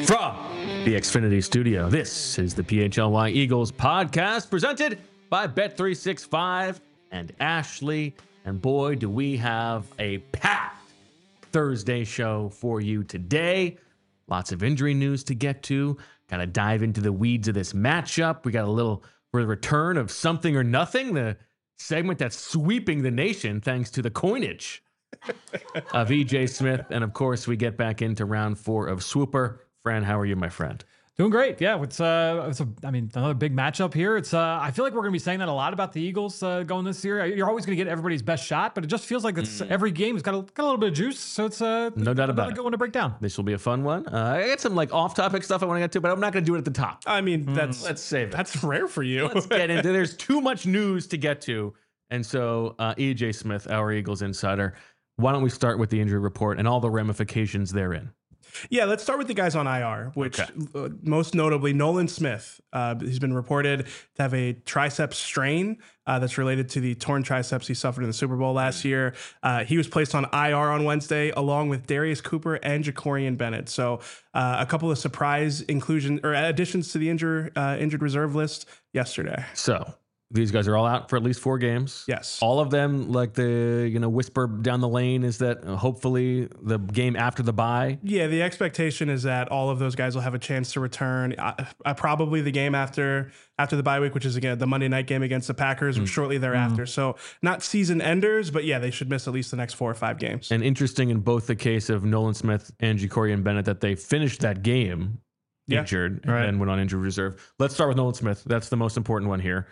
From the Xfinity Studio, this is the PHLY Eagles podcast presented by Bet365 and Ashley. And boy, do we have a packed Thursday show for you today. Lots of injury news to get to. Got to dive into the weeds of this matchup. We got a little return of Something or Nothing, the segment that's sweeping the nation thanks to the coinage of EJ Smith. And of course, we get back into round 4 of Swooper. Fran, how are you, my friend? Doing great. Yeah, it's another big matchup here. I feel like we're going to be saying that a lot about the Eagles going this year. You're always going to get everybody's best shot, but it just feels like every game has got a little bit of juice. So it's no doubt about it. Good one to break down. This will be a fun one. I got some off-topic stuff I want to get to, but I'm not going to do it at the top. I mean, let's save it. That's rare for you. Let's get into. There's too much news to get to, and so EJ Smith, our Eagles insider, why don't we start with the injury report and all the ramifications therein? Yeah, let's start with the guys on IR, which most notably Nolan Smith. He's been reported to have a triceps strain that's related to the torn triceps he suffered in the Super Bowl last year. He was placed on IR on Wednesday, along with Darius Cooper and Jacorian Bennett. So a couple of surprise inclusion or additions to the injured reserve list yesterday. So these guys are all out for at least 4 games. Yes. All of them, like the whisper down the lane, is that hopefully the game after the bye. Yeah, the expectation is that all of those guys will have a chance to return. Probably the game after the bye week, which is again the Monday night game against the Packers, shortly thereafter. So not season enders, but yeah, they should miss at least the next 4 or 5 games. And interesting in both the case of Nolan Smith and Jacorian Bennett that they finished that game injured and then went on injured reserve. Let's start with Nolan Smith. That's the most important one here.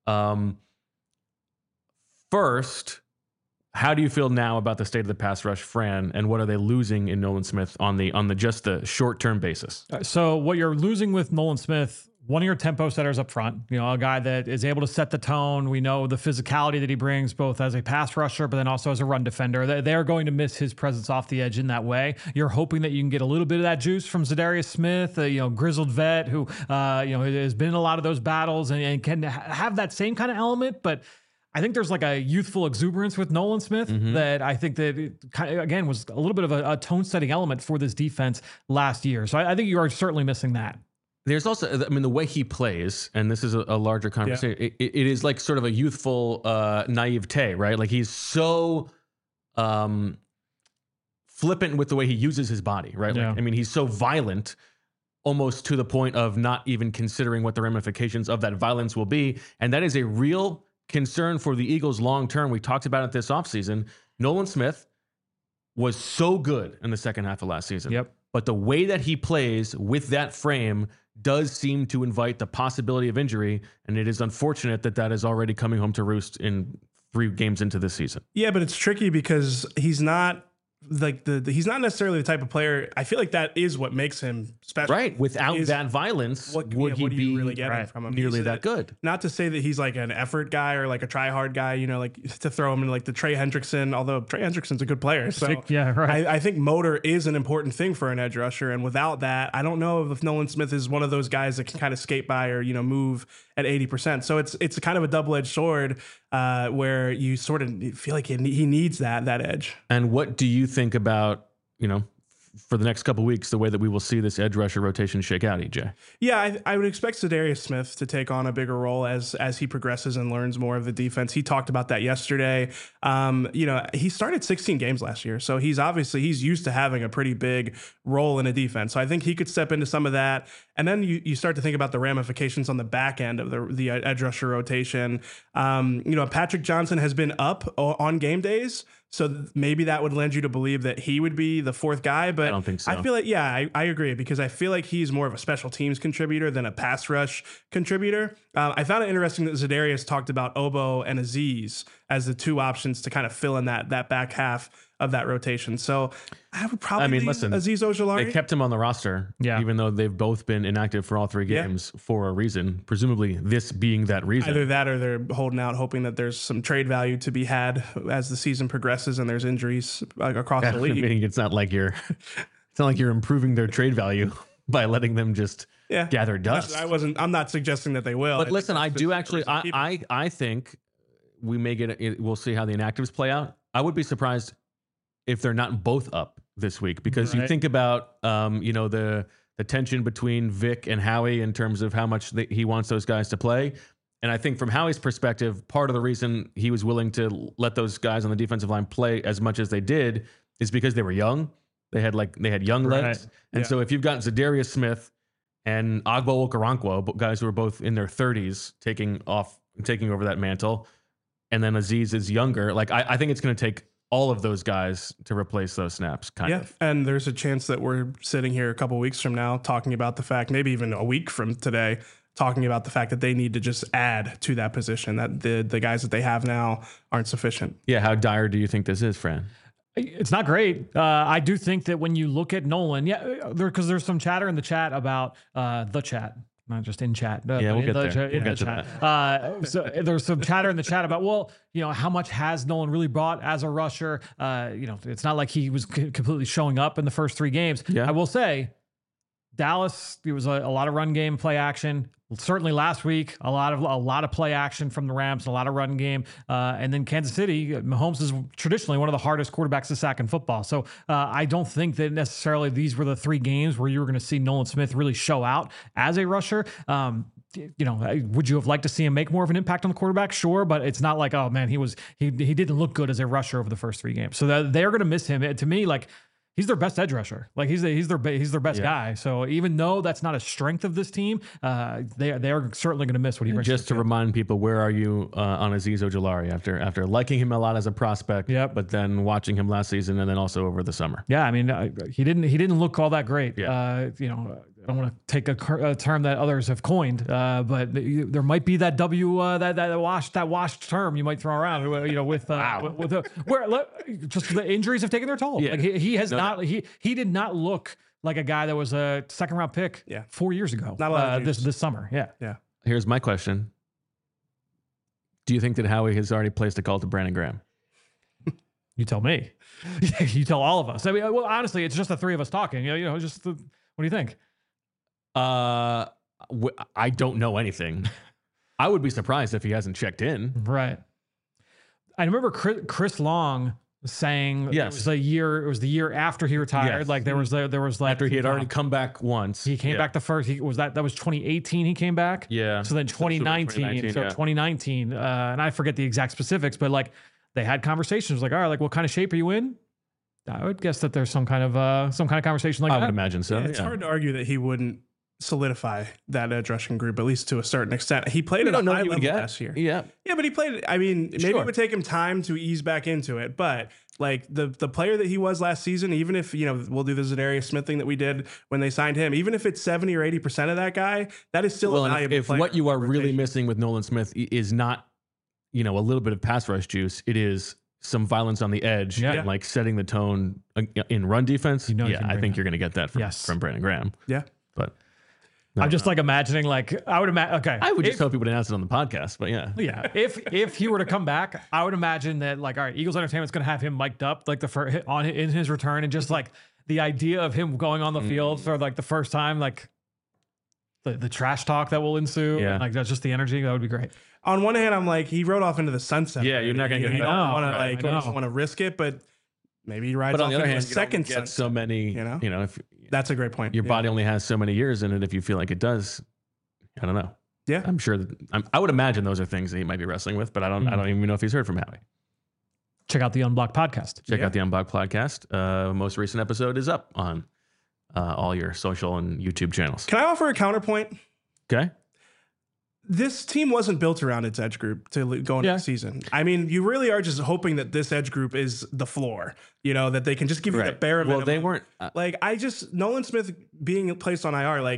First, how do you feel now about the state of the pass rush, Fran, and what are they losing in Nolan Smith on the just the short-term basis? So what you're losing with Nolan Smith, one of your tempo setters up front, a guy that is able to set the tone. We know the physicality that he brings both as a pass rusher, but then also as a run defender. They're going to miss his presence off the edge in that way. You're hoping that you can get a little bit of that juice from Zadarius Smith, grizzled vet who, has been in a lot of those battles and can have that same kind of element, but I think there's like a youthful exuberance with Nolan Smith that I think that it again was a little bit of a tone-setting element for this defense last year. So I think you are certainly missing that. There's also, the way he plays, and this is a larger conversation, it is like sort of a youthful naivete, right? Like he's so flippant with the way he uses his body, right? Yeah. Like, he's so violent almost to the point of not even considering what the ramifications of that violence will be. And that is a real concern for the Eagles long term. We talked about it this offseason. Nolan Smith was so good in the second half of last season. Yep. But the way that he plays with that frame does seem to invite the possibility of injury, and it is unfortunate that is already coming home to roost in 3 games into this season. Yeah, but it's tricky because he's not like he's not necessarily the type of player. I feel like that is what makes him special. Right. Without that violence, would he be really getting from him? Nearly that good? Not to say that he's like an effort guy or like a try hard guy, like to throw him in like the Trey Hendrickson, although Trey Hendrickson's a good player. So yeah, right. I think motor is an important thing for an edge rusher. And without that, I don't know if Nolan Smith is one of those guys that can kind of skate by or, move at 80%. So it's kind of a double-edged sword where you sort of feel like he needs that edge. And what do you think about, for the next couple of weeks, the way that we will see this edge rusher rotation shake out, EJ? Yeah, I would expect Zadarius Smith to take on a bigger role as he progresses and learns more of the defense. He talked about that yesterday. He started 16 games last year, so he's used to having a pretty big role in a defense. So I think he could step into some of that. And then you start to think about the ramifications on the back end of the edge rusher rotation. Patrick Johnson has been up on game days, so maybe that would lend you to believe that he would be the 4th guy. But I don't think so. I feel like, I agree, because I feel like he's more of a special teams contributor than a pass rush contributor. I found it interesting that Zadarius talked about Obo and Azeez as the 2 options to kind of fill in that back half of that rotation. So I would probably listen, Azeez Ojulari. They kept him on the roster, Yeah. even though they've both been inactive for all 3 games for a reason, presumably this being that reason. Either that or they're holding out, hoping that there's some trade value to be had as the season progresses and there's injuries across the league. It's not like you're improving their trade value by letting them just gather dust. I'm not suggesting that they will. But listen, I do actually, I think we may we'll see how the inactives play out. I would be surprised if they're not both up this week, because you think about, the the tension between Vic and Howie in terms of how much he wants those guys to play. And I think from Howie's perspective, part of the reason he was willing to let those guys on the defensive line play as much as they did is because they were young. They had young legs. And so if you've got Zadarius Smith and Agbo Okoronkwo, guys who are both in their 30s, taking over that mantle, and then Azeez is younger, like I think it's going to take all of those guys to replace those snaps, kind of. And there's a chance that we're sitting here a couple weeks from now talking about the fact, maybe even a week from today, talking about the fact that they need to just add to that position, that the guys that they have now aren't sufficient. Yeah, how dire do you think this is, Fran? It's not great. I do think that when you look at Nolan, because there's some chatter in the chat about the chat, not just in chat. We'll get there. We'll get to that. So there's some chatter in the chat about, well, how much has Nolan really brought as a rusher? It's not like he was completely showing up in the first 3 games. Yeah. I will say, Dallas, it was a lot of run game, play action. Certainly last week, a lot of play action from the Rams, a lot of run game. And then Kansas City, Mahomes is traditionally one of the hardest quarterbacks to sack in football. So I don't think that necessarily these were the 3 games where you were going to see Nolan Smith really show out as a rusher. Would you have liked to see him make more of an impact on the quarterback? Sure, but it's not like, oh man, he didn't look good as a rusher over the first 3 games. So they're going to miss him. To me, like, he's their best edge rusher. Like he's their best guy. So even though that's not a strength of this team, they are certainly going to miss what he brings. Just to remind people, where are you on Azeez Ojulari after liking him a lot as a prospect, but then watching him last season and then also over the summer? Yeah, I mean, he didn't look all that great. Yeah. I don't want to take a term that others have coined, but there might be that that washed term you might throw around. With just the injuries have taken their toll. Yeah. Like he has not. He did not look like a guy that was a 2nd round pick 4 years ago. Not a lot of this summer. Yeah. Here's my question: do you think that Howie has already placed a call to Brandon Graham? You tell me. You tell all of us. I mean, well, honestly, it's just the 3 of us talking. What do you think? I don't know anything. I would be surprised if he hasn't checked in. Right. I remember Chris Long saying it was the year after he retired. Yes. Like there was like After he had already come back once. He came back the first. That was 2018. He came back. Yeah. So then 2019. 2019. And I forget the exact specifics, but like they had conversations. Like, all right, like what kind of shape are you in? I would guess that there's some kind of conversation like that. I would imagine so. It's hard to argue that he wouldn't solidify that edge rushing group, at least to a certain extent. He played at a high level last year. Yeah, but he played. I mean, maybe it would take him time to ease back into it. But like the player that he was last season, even if we'll do the Zadarius Smith thing that we did when they signed him, even if it's 70 or 80% of that guy, that is still a valuable if player. what you are really missing with Nolan Smith is not, a little bit of pass rush juice, it is some violence on the edge, and like setting the tone in run defense. I think you're going to get that from Brandon Graham. Yeah, but. I'm just like imagining, like I would imagine. Okay, I would just hope he would announce it on the podcast, but yeah. If he were to come back, I would imagine that like, all right, Eagles Entertainment's going to have him mic'd up like in his return, and just like the idea of him going on the field for like the first time, like the trash talk that will ensue, and like that's just the energy that would be great. On one hand, I'm like, he rode off into the sunset. Yeah, you're not going to get. You don't want to risk it, but maybe he rides. But on off the other into hand, a second sunset. So many, if that's a great point. Your body only has so many years in it. If you feel like it does, I don't know. Yeah, I'm sure I would imagine those are things that he might be wrestling with, but I don't even know if he's heard from Howie. Check out the Unblocked podcast. Check out the Unblocked podcast. Most recent episode is up on all your social and YouTube channels. Can I offer a counterpoint? Okay. This team wasn't built around its edge group to go into the season. I mean, you really are just hoping that this edge group is the floor, that they can just give you the bare minimum. Well, they weren't. Nolan Smith being placed on IR,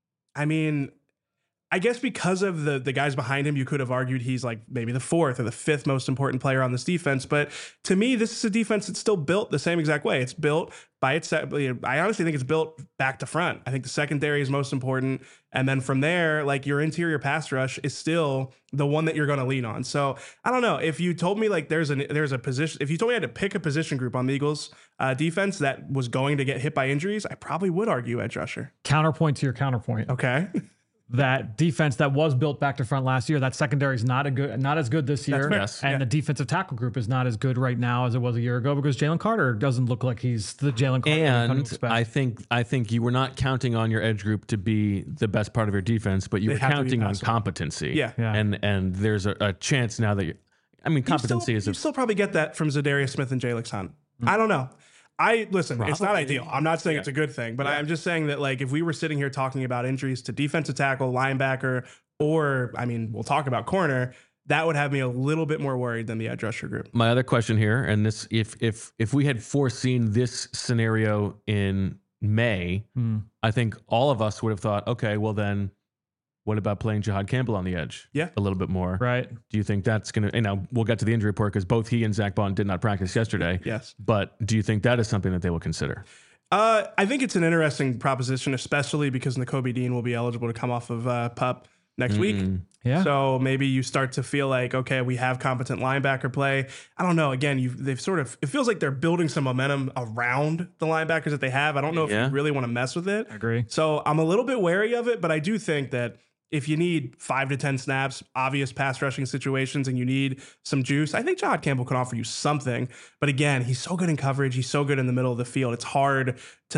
I guess because of the guys behind him, you could have argued he's like maybe the 4th or the 5th most important player on this defense. But to me, this is a defense that's still built the same exact way. It's built by itself. I honestly think it's built back to front. I think the secondary is most important. And then from there, like your interior pass rush is still the one that you're going to lean on. So I don't know. If you told me like there's a position, if you told me I had to pick a position group on the Eagles defense that was going to get hit by injuries, I probably would argue edge rusher. Counterpoint to your counterpoint. Okay. that defense that was built back to front last year, that secondary is not as good this year. fair. Yes. And the defensive tackle group is not as good right now as it was a year ago because Jalen Carter doesn't look like he's the Jalen Carter. And I think you were not counting on your edge group to be the best part of your defense, but you were have to be counting on passable. competency. Yeah. And there's a chance now that competency you still probably get that from Zadarius Smith and Jalen Hunt. I don't know. Listen, it's not ideal. I'm not saying it's a good thing, but I'm just saying that like if we were sitting here talking about injuries to defensive tackle, linebacker, or we'll talk about corner, that would have me a little bit more worried than the edge rusher group. My other question here, and this, if we had foreseen this scenario in May, I think all of us would have thought, okay, well then, what about playing Jihad Campbell on the edge? Yeah. A little bit more. right. Do you think that's going to, we'll get to the injury report because both he and Zach Bond did not practice yesterday. Yes. But do you think that is something that they will consider? I think it's an interesting proposition, especially because Nakobe Dean will be eligible to come off of PUP next week. Yeah. So maybe you start to feel like, okay, we have competent linebacker play. I don't know. Again, it feels like they're building some momentum around the linebackers that they have. I don't know if you really want to mess with it. I agree. So I'm a little bit wary of it, but I do think that if you need 5 to 10 snaps, obvious pass rushing situations, and you need some juice, I think Jihad Campbell can offer you something. But again, he's so good in coverage. He's so good in the middle of the field. It's hard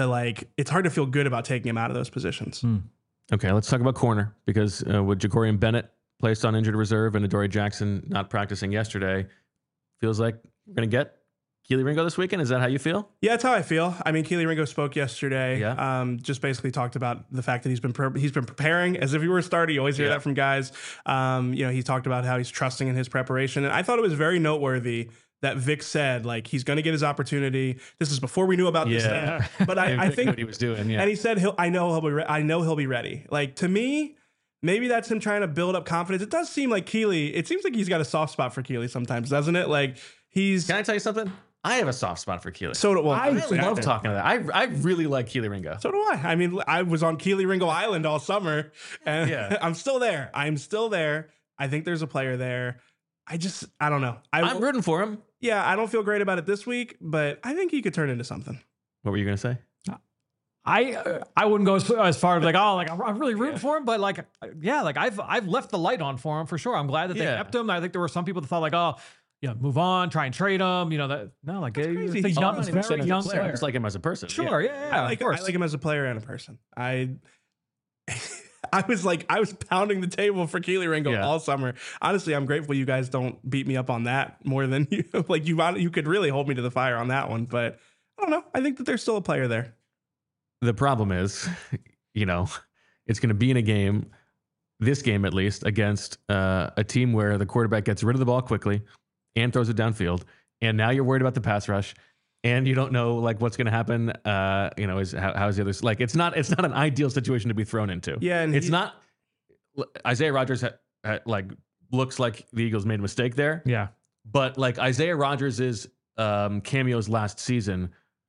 to feel good about taking him out of those positions. Okay, let's talk about corner because with Jacorian Bennett placed on injured reserve and Adoree Jackson not practicing yesterday, feels like we're going to get Kelee Ringo this weekend. Is that how you feel? Yeah, that's how I feel. Kelee Ringo spoke yesterday. Yeah. Just basically talked about the fact that he's been preparing as if he were a starter. You always hear that from guys. He talked about how he's trusting in his preparation, and I thought it was very noteworthy that Vic said like he's going to get his opportunity. This is before we knew about this thing. But I think what he was doing. Yeah. and he said I know he'll be ready. Like to me, maybe that's him trying to build up confidence. It does seem like Kelee. It seems like he's got a soft spot for Kelee sometimes, doesn't it? Like he's. Can I tell you something? I have a soft spot for Kelee. So do I love talking to that. I really like Kelee Ringo. So do I. I was on Kelee Ringo Island all summer, and I'm still there. I'm still there. I think there's a player there. I don't know. I'm rooting for him. Yeah, I don't feel great about it this week, but I think he could turn into something. What were you going to say? I wouldn't go as far as I'm really rooting for him, but I've left the light on for him for sure. I'm glad that they kept him. I think there were some people that thought move on, try and trade him. Crazy. He's Very young young player. I just like him as a person. Sure, yeah. I like him as a player and a person. I was pounding the table for Kelee Ringo all summer. Honestly, I'm grateful you guys don't beat me up on that more than you. You could really hold me to the fire on that one, but I don't know. I think that there's still a player there. The problem is, it's going to be in a game, this game at least, against a team where the quarterback gets rid of the ball quickly and throws it downfield. And now you're worried about the pass rush. And you don't know what's going to happen. How's the other? It's not an ideal situation to be thrown into. Yeah, and it's not. Isaiah Rodgers looks like the Eagles made a mistake there. Yeah, but Isaiah Rodgers' cameos last season,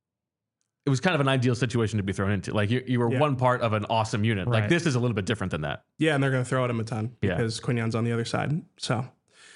it was kind of an ideal situation to be thrown into. You were one part of an awesome unit. Right. This is a little bit different than that. Yeah, and they're going to throw at him a ton because Quinion's on the other side. So.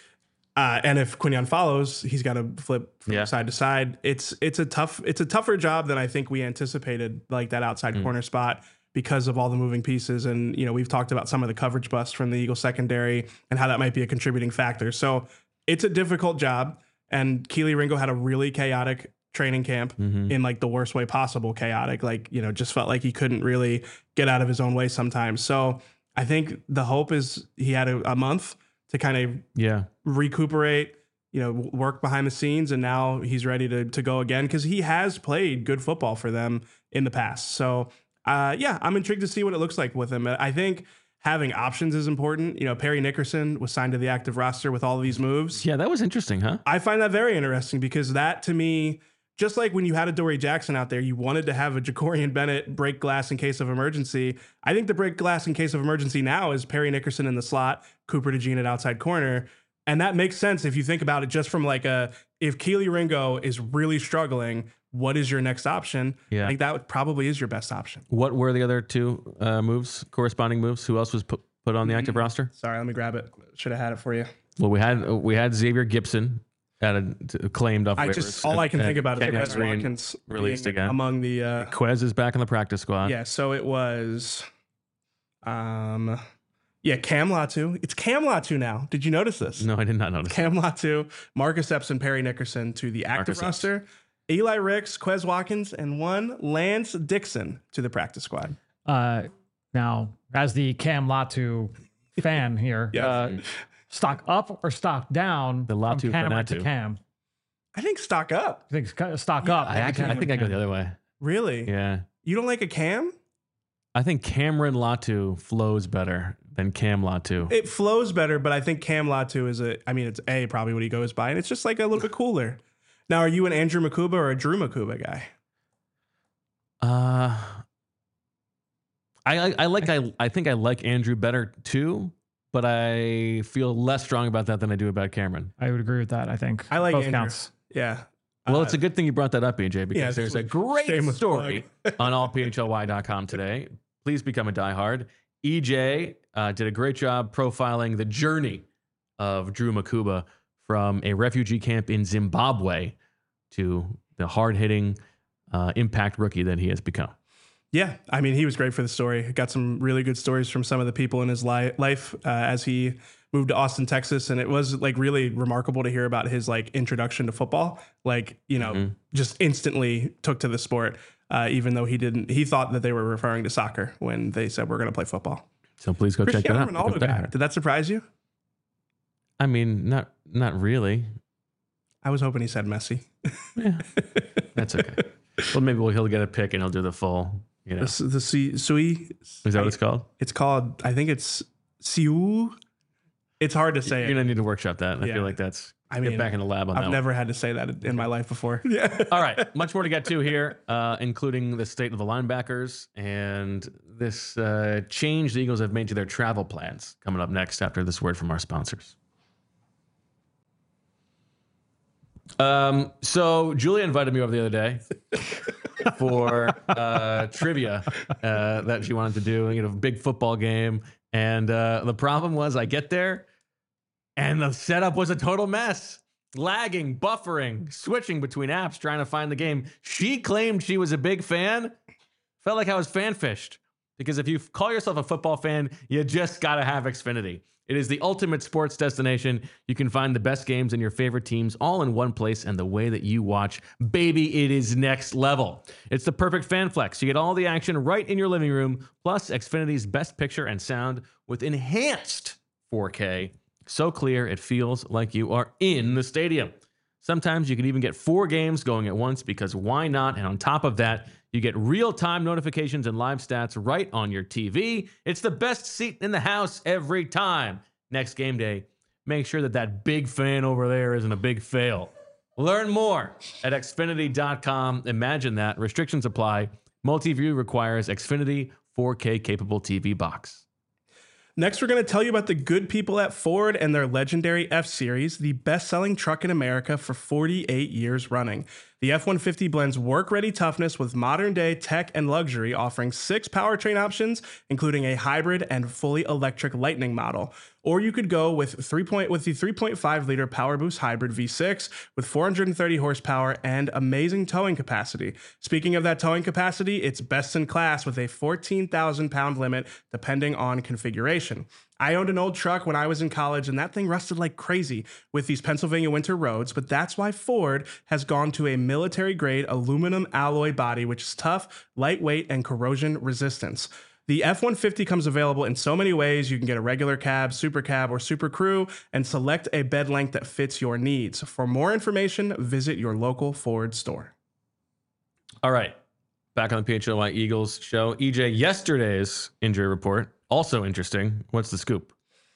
And if Quinion follows, he's got to flip from side to side. It's a tougher job than I think we anticipated, that outside corner spot because of all the moving pieces. And, we've talked about some of the coverage busts from the Eagles secondary and how that might be a contributing factor. So it's a difficult job. And Kelee Ringo had a really chaotic training camp in the worst way possible, chaotic, just felt like he couldn't really get out of his own way sometimes. So I think the hope is he had a month to kind of recuperate, work behind the scenes, and now he's ready to go again because he has played good football for them in the past. So, I'm intrigued to see what it looks like with him. I think having options is important. Perry Nickerson was signed to the active roster with all of these moves. Yeah, that was interesting, huh? I find that very interesting because that, to me, just like when you had Adoree Jackson out there, you wanted to have a Jacorian Bennett break glass in case of emergency. I think the break glass in case of emergency now is Perry Nickerson in the slot, Cooper DeJean at outside corner. And that makes sense if you think about it just from if Kelee Ringo is really struggling, what is your next option? Yeah. I think that probably is your best option. What were the other two corresponding moves? Who else was put on the active roster? Sorry, let me grab it. Should have had it for you. Well, we had Xavier Gibson claimed off waivers. All I can think about is Quez Quez Watkins released being again among the Quez is back in the practice squad. Yeah, so it was Yeah, Cam Latu. It's Cam Latu now. Did you notice this? No, I did not notice. Cam Latu, Marcus Epps, and Perry Nickerson to the active roster. Eli Ricks, Quez Watkins, and one Lance Dixon to the practice squad. Now, as the Cam Latu fan here, Yes. Stock up or stock down The Latu from Cameron Fanatu. to Cam? I think stock up. I think stock up. I think I go the other way. Really? Yeah. You don't like a Cam? I think Cameron Latu flows better than Cam Latu. It flows better, but I think Cam Latu is it's probably what he goes by, and it's just like a little bit cooler. Now, are you an Andrew Makuba or a Drew Makuba guy? I think I like Andrew better too, but I feel less strong about that than I do about Cameron. I would agree with that. I think I like both Andrew. counts. Yeah. Well, it's a good thing you brought that up, EJ, because Yeah, there's a great shameless story on allphlY.com today. Please become a diehard. EJ did a great job profiling the journey of Drew Makuba from a refugee camp in Zimbabwe to the hard-hitting impact rookie that he has become. Yeah, I mean, he was great for the story. Got some really good stories from some of the people in his life as he moved to Austin, Texas, and it was like really remarkable to hear about his like introduction to football. Like, you know, just instantly took to the sport, even though he thought that they were referring to soccer when they said we're going to play football. So please go check that out. Ronaldo guy. Did that surprise you? I mean, not really. I was hoping he said Messi. Yeah, that's okay. Well, maybe he'll get a pick and he'll do the full. You know, The Sui. is that what it's called? It's called. I think it's Siu. It's hard to say. You're gonna need to workshop that. I Yeah. feel like that's. I mean, get back in the lab on I've that. never had to say that in my life before. Yeah. All right, much more to get to here, including the state of the linebackers and this change the Eagles have made to their travel plans. Coming up next after this word from our sponsors. So Julia invited me over the other day for trivia that she wanted to do, big football game. And the problem was I get there and the setup was a total mess. Lagging, buffering, switching between apps, trying to find the game. She claimed she was a big fan. Felt like I was fan fished. Because if you call yourself a football fan, you just got to have Xfinity. It is the ultimate sports destination. You can find the best games and your favorite teams all in one place, and the way that you watch, baby, it is next level. It's the perfect fan flex. You get all the action right in your living room, plus Xfinity's best picture and sound with enhanced 4K. So clear, it feels like you are in the stadium. Sometimes you can even get 4 games going at once, because why not? And on top of that, you get real-time notifications and live stats right on your TV. It's the best seat in the house every time. Next game day, make sure that big fan over there isn't a big fail. Learn more at Xfinity.com. Imagine that. Restrictions apply. Multi-view requires Xfinity 4K capable TV box. Next, we're going to tell you about the good people at Ford and their legendary F-Series, the best-selling truck in America for 48 years running. The F-150 blends work-ready toughness with modern-day tech and luxury, offering 6 powertrain options, including a hybrid and fully electric Lightning model. Or you could go with the 3.5-liter PowerBoost Hybrid V6 with 430 horsepower and amazing towing capacity. Speaking of that towing capacity, it's best in class with a 14,000-pound limit depending on configuration. I owned an old truck when I was in college, and that thing rusted like crazy with these Pennsylvania winter roads, but that's why Ford has gone to a military-grade aluminum alloy body, which is tough, lightweight, and corrosion resistance. The F-150 comes available in so many ways. You can get a regular cab, super cab, or super crew, and select a bed length that fits your needs. For more information, visit your local Ford store. All right, back on the PHLY Eagles show. EJ, yesterday's injury report, also interesting. What's the scoop?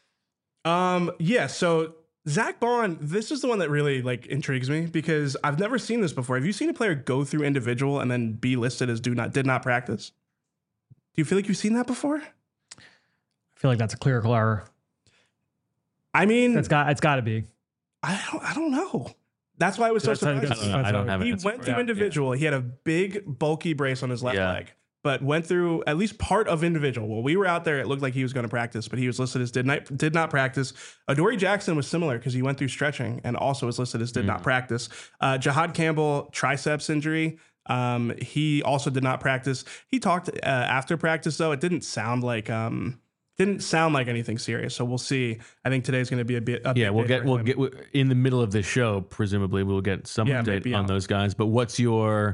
So Zach Bond, this is the one that really intrigues me because I've never seen this before. Have you seen a player go through individual and then be listed as did not practice? Do you feel like you've seen that before? I feel like that's a clerical error. I mean, it's got to be. I don't know. That's why it was so surprising. I don't have it. He went through individual. He had a big bulky brace on his left leg, but went through at least part of individual. Well, we were out there. It looked like he was going to practice, but he was listed as did not practice. Adoree Jackson was similar because he went through stretching and also was listed as did not practice. Jahad Campbell, triceps injury. He also did not practice. He talked after practice, though. It didn't sound like didn't sound like anything serious. So we'll see. I think today's going to be a bit. We'll get in the middle of the show. Presumably, we'll get some update on those guys. But what's your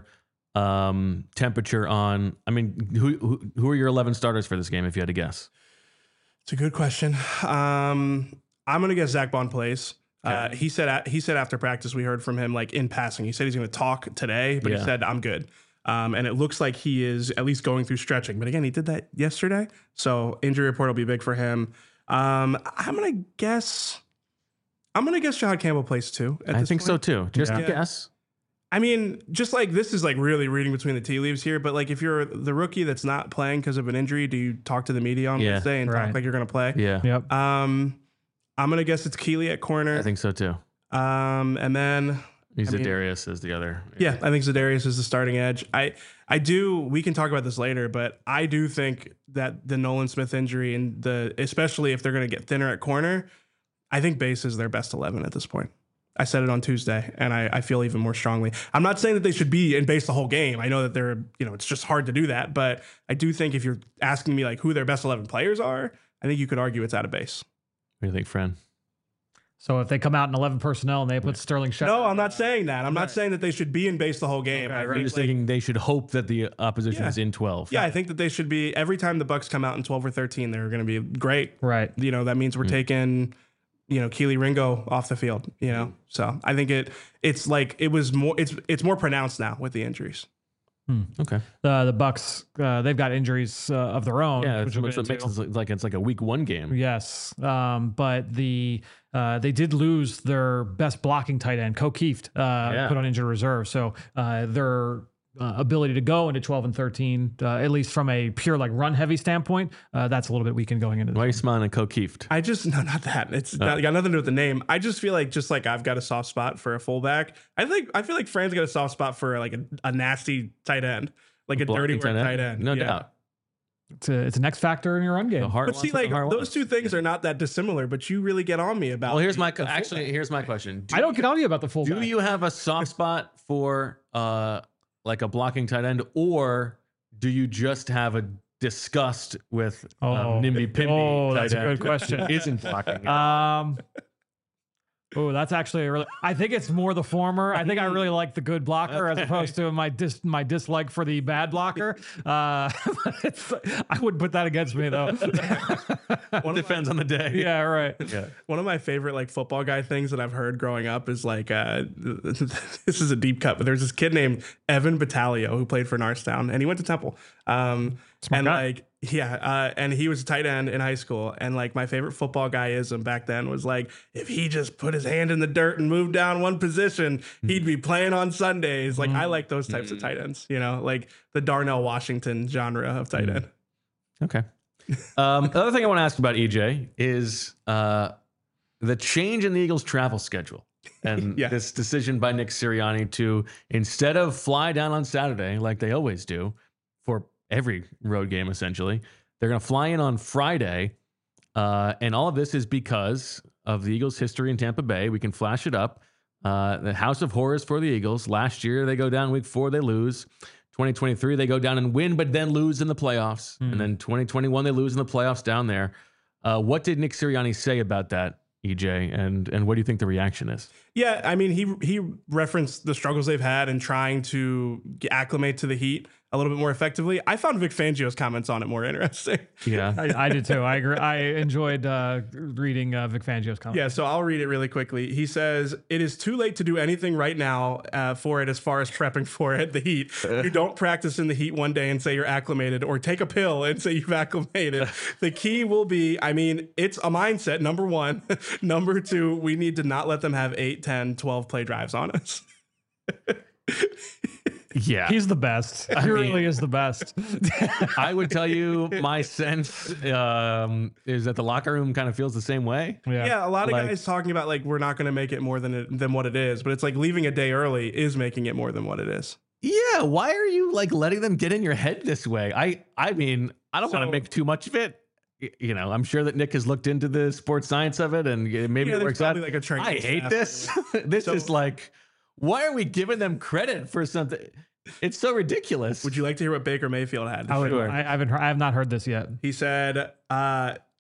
temperature on? I mean, who are your 11 starters for this game? If you had to guess, it's a good question. I'm going to guess Zach Bond plays. Okay. He said after practice, we heard from him like in passing. He said he's going to talk today, but he said I'm good. And it looks like he is at least going through stretching. But again, he did that yesterday. So injury report will be big for him. I'm going to guess Jahad Campbell plays too. I think so too. Just a guess. I mean, just like this is like really reading between the tea leaves here. But like if you're the rookie that's not playing because of an injury, do you talk to the media on Wednesday and talk like you're going to play? Yeah. Yep. I'm going to guess it's Keeley at corner. I think so too. And then... Zadarius is the other. Yeah, I think Zadarius is the starting edge. We can talk about this later, but I do think that the Nolan Smith injury and especially if they're going to get thinner at corner, I think base is their best 11 at this point. I said it on Tuesday, and I feel even more strongly. I'm not saying that they should be in base the whole game. I know that they're, it's just hard to do that, but I do think if you're asking me like who their best 11 players are, I think you could argue it's out of base. What do you think, friend? So if they come out in 11 personnel and they put Sterling Shepard. No, I'm not saying that. I'm not saying that they should be in base the whole game. Okay, I'm just thinking they should hope that the opposition is in 12. Yeah, I think that they should be. Every time the Bucks come out in 12 or 13, they're going to be great. Right. That means we're taking, Keely Ringo off the field. So I think it's more pronounced now with the injuries. Okay. The Bucks, they've got injuries of their own. Yeah, which makes it like it's like a week 1 game. Yes, but they did lose their best blocking tight end, Ko Kieft, put on injured reserve. So their ability to go into 12 and 13, at least from a pure like run heavy standpoint, that's a little bit weakened going into. Why are you smiling at Ko Kieft? No, not that. It's got nothing to do with the name. I just feel like I've got a soft spot for a fullback. I feel like Fran's got a soft spot for like a nasty tight end, like a dirty work tight end. No doubt. It's an X factor in your run game. But see, like those two things are not that dissimilar. But you really get on me about. Well, here's my question. I don't get on you about the fullback. Do you have a soft spot for like a blocking tight end, or do you just have a disgust with Nimby Pimby? Oh, that's a good question. Isn't blocking. That's actually I think it's more the former. I think I really like the good blocker as opposed to my dislike for the bad blocker. I wouldn't put that against me though. Depends on the day. Yeah, right. Yeah. One of my favorite like football guy things that I've heard growing up is like this is a deep cut, but there's this kid named Evan Battaglio who played for Norristown and he went to Temple. And he was a tight end in high school. And like my favorite football guyism back then was like, if he just put his hand in the dirt and moved down one position, he'd be playing on Sundays. Like I like those types of tight ends, like the Darnell Washington genre of tight end. Okay. The other thing I want to ask about EJ is the change in the Eagles' travel schedule. And this decision by Nick Sirianni to, instead of fly down on Saturday like they always do for every road game, essentially, they're going to fly in on Friday. And all of this is because of the Eagles' history in Tampa Bay. We can flash it up. The House of Horrors for the Eagles. Last year, they go down week 4, they lose. 2023, they go down and win, but then lose in the playoffs. And then 2021, they lose in the playoffs down there. What did Nick Sirianni say about that, EJ? And what do you think the reaction is? Yeah, I mean, he referenced the struggles they've had in trying to acclimate to the heat a little bit more effectively. I found Vic Fangio's comments on it more interesting. Yeah, I did too. I agree. I enjoyed reading Vic Fangio's comments. Yeah, so I'll read it really quickly. He says, "It is too late to do anything right now for it as far as prepping for it, the heat. You don't practice in the heat one day and say you're acclimated, or take a pill and say you've acclimated. The key will be, it's a mindset, number one. Number two, we need to not let them have 8, 10, 12 play drives on us." Yeah, he's the best. He really is the best. I would tell you my sense is that the locker room kind of feels the same way. Yeah, a lot of guys talking about like we're not going to make it more than what it is, but it's like leaving a day early is making it more than what it is. Yeah, why are you like letting them get in your head this way? I mean, I don't want to make too much of it. I'm sure that Nick has looked into the sports science of it, and maybe it works out. Like a I hate this. This is like, why are we giving them credit for something? It's so ridiculous. Would you like to hear what Baker Mayfield had? I have not heard this yet. He said,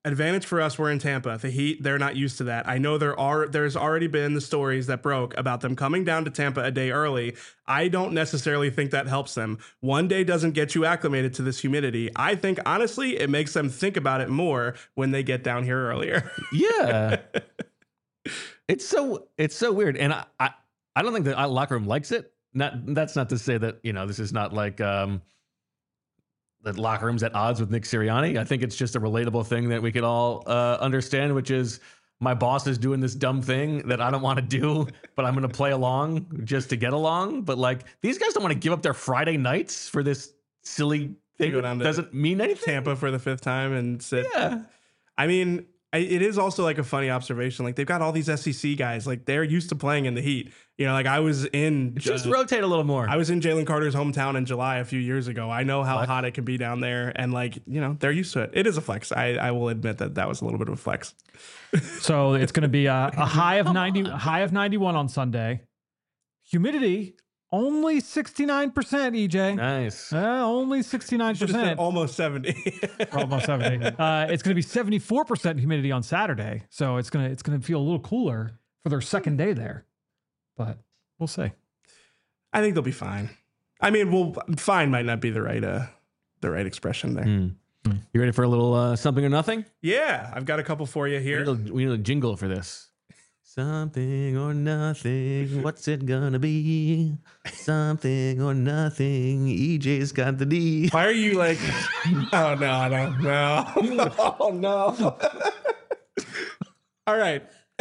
Advantage for us, we're in Tampa. The Heat, they're not used to that. I know there's already been the stories that broke about them coming down to Tampa a day early. I don't necessarily think that helps them. One day doesn't get you acclimated to this humidity. I think, honestly, it makes them think about it more when they get down here earlier. Yeah. It's so weird. And I don't think the locker room likes it. That's not to say that, this is not like the locker room's at odds with Nick Sirianni. I think it's just a relatable thing that we could all understand, which is my boss is doing this dumb thing that I don't want to do, but I'm going to play along just to get along. But like, these guys don't want to give up their Friday nights for this silly thing that doesn't mean anything. Tampa for the 5th time and sit. Yeah. I mean, it is also like a funny observation. Like, they've got all these SEC guys. Like, they're used to playing in the heat. Like I was in. Just rotate a little more. I was in Jalen Carter's hometown in July a few years ago. I know how hot it can be down there, and like they're used to it. It is a flex. I will admit that was a little bit of a flex. So it's going to be a high of 91 on Sunday. Humidity only 69%. EJ, nice. Only 69%. Almost 70. Almost 70. It's going to be 74% humidity on Saturday. So it's going to feel a little cooler for their second day there. But we'll see. I think they'll be fine. I mean, fine might not be the right expression there. You ready for a little something or nothing? Yeah, I've got a couple for you here. We need a jingle for this. Something or nothing. What's it gonna be? Something or nothing. EJ's got the D. Why are you like? Oh no! I don't know. Oh no! All right.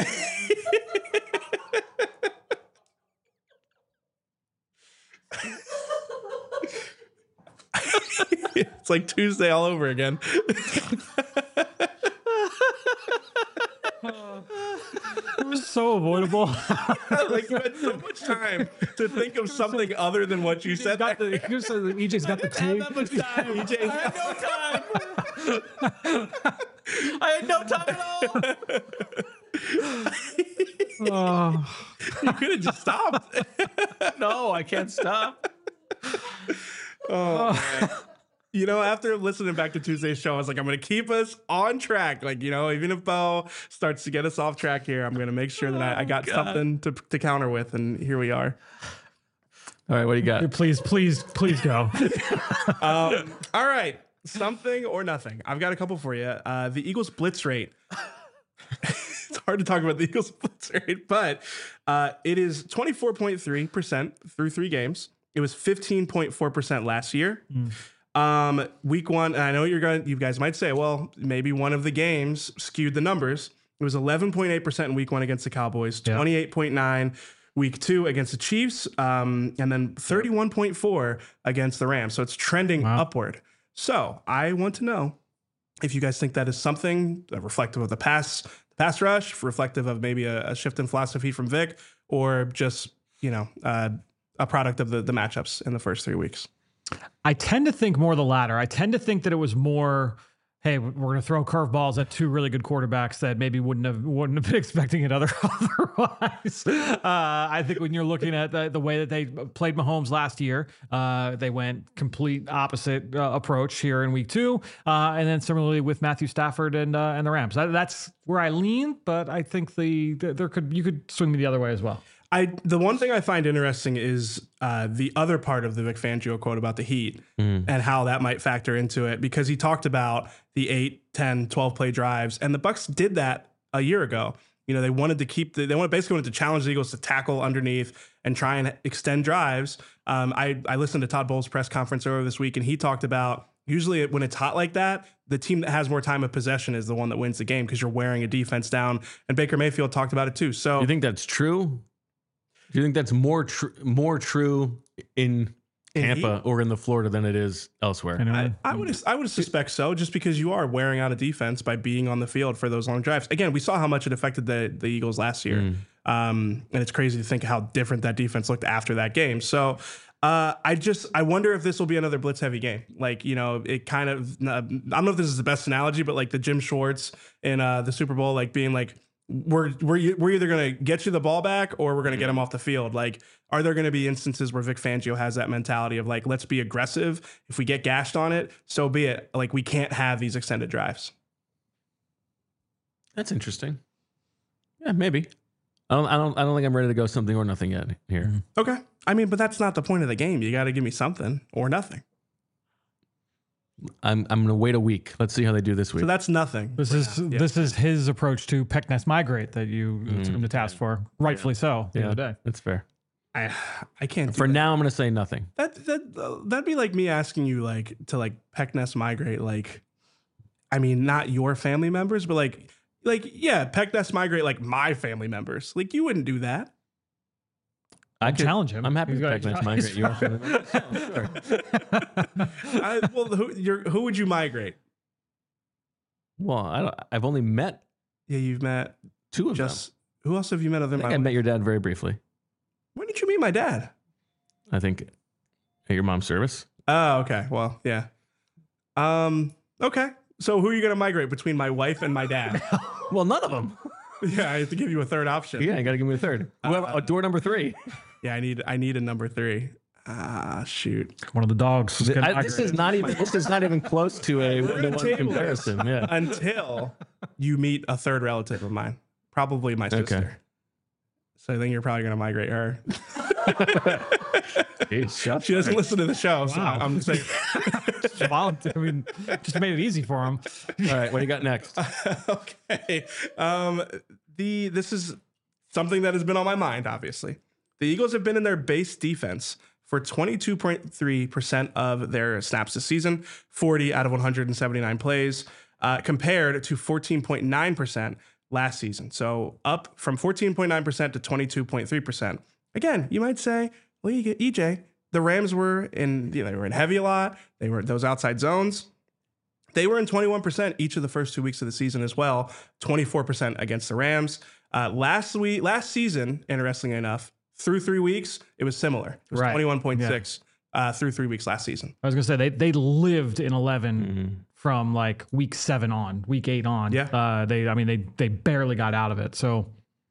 It's like Tuesday all over again. It was so avoidable. Like, you had so much time to think of something other than what you said. EJ's got the tape. I had no time at all. You could have just stopped. No, I can't stop. Oh, man. After listening back to Tuesday's show, I was like, I'm going to keep us on track. Like, even if Bo starts to get us off track here, I'm going to make sure that I got something to counter with. And here we are. All right, what do you got? Please go. All right. Something or nothing. I've got a couple for you. The Eagles blitz rate. It's hard to talk about the Eagles blitz rate, but it is 24.3% through 3 games. It was 15.4% last year. Week 1, and I know you guys might say, well, maybe one of the games skewed the numbers. It was 11.8% in week 1 against the Cowboys, 28.9 week 2 against the Chiefs, and then 31.4 against the Rams. So it's trending upward. So I want to know if you guys think that is something reflective of the pass rush, reflective of maybe a shift in philosophy from Vic, or just, a product of the matchups in the first 3 weeks. I tend to think more the latter. I tend to think that it was more, hey, we're going to throw curveballs at 2 really good quarterbacks that maybe wouldn't have been expecting it otherwise. I think when you're looking at the way that they played Mahomes last year, they went complete opposite approach here in week 2, and then similarly with Matthew Stafford and the Rams. That's where I lean, but I think you could swing me the other way as well. The one thing I find interesting is the other part of the Vic Fangio quote about the Heat and how that might factor into it, because he talked about the 8, 10, 12 play drives, and the Bucs did that a year ago. They wanted to basically wanted to challenge the Eagles to tackle underneath and try and extend drives. I listened to Todd Bowles' press conference earlier this week, and he talked about usually when it's hot like that, the team that has more time of possession is the one that wins the game because you're wearing a defense down. And Baker Mayfield talked about it too. So you think that's true? Do you think that's more true in Tampa or in the Florida than it is elsewhere? I would suspect so, just because you are wearing out a defense by being on the field for those long drives. Again, we saw how much it affected the Eagles last year, and it's crazy to think how different that defense looked after that game. So I wonder if this will be another blitz heavy game. Like, it kind of, I don't know if this is the best analogy, but like the Jim Schwartz in the Super Bowl, like being like, we're either going to get you the ball back or we're going to get him off the field. Like, are there going to be instances where Vic Fangio has that mentality of like, let's be aggressive. If we get gashed on it, so be it. Like, we can't have these extended drives. That's interesting. Yeah, maybe. I don't think I'm ready to go something or nothing yet here. Okay. I mean, but that's not the point of the game. You got to give me something or nothing. I'm going to wait a week. Let's see how they do this week. So that's nothing. This is his approach to Peckness Migrate that you took him to task for, rightfully so. At the end of the day, That's fair. I can't. For now, I'm going to say nothing. That'd be like me asking you to Peckness Migrate. I mean, not your family members, but yeah, Peckness Migrate like my family members. Like you wouldn't do that. I could challenge him. I'm happy He's to got- Peckness migrate you. Sure. Who would you migrate? Well, I've only met Yeah, you've met 2 of them. who else have you met other than I my think I wife? met your dad very briefly. When did you meet my dad? I think at your mom's service. Oh, okay. Well, yeah. Okay. So who are you going to migrate between my wife and my dad? Well, none of them. Yeah, I have to give you a third option. Yeah, you got to give me a third. Door number 3. Yeah, I need a number 3. Shoot. one of the dogs. is getting This is migrated. not even close to a We're gonna 1-to-1 table comparison. Yeah. Until you meet a third relative of mine, probably my sister. So I think you're probably going to migrate her. Jeez, She doesn't listen to the show, so Wow. I'm saying. I mean, just made it easy for him. All right, what do you got next? Okay. This is something that has been on my mind, obviously. The Eagles have been in their base defense for 22.3% of their snaps this season, 40 out of 179 plays, compared to 14.9% last season. So up from 14.9% to 22.3%. Again, you might say, well, you get EJ. The Rams were they were in heavy a lot. They were those outside zones. They were in 21% each of the first 2 weeks of the season as well, 24% against the Rams. Last season, interestingly enough, through 3 weeks, it was similar. It was Right. 21.6 through 3 weeks last season. I was gonna say they lived in 11 from like week 7 on, week 8 on. Yeah. They barely got out of it. So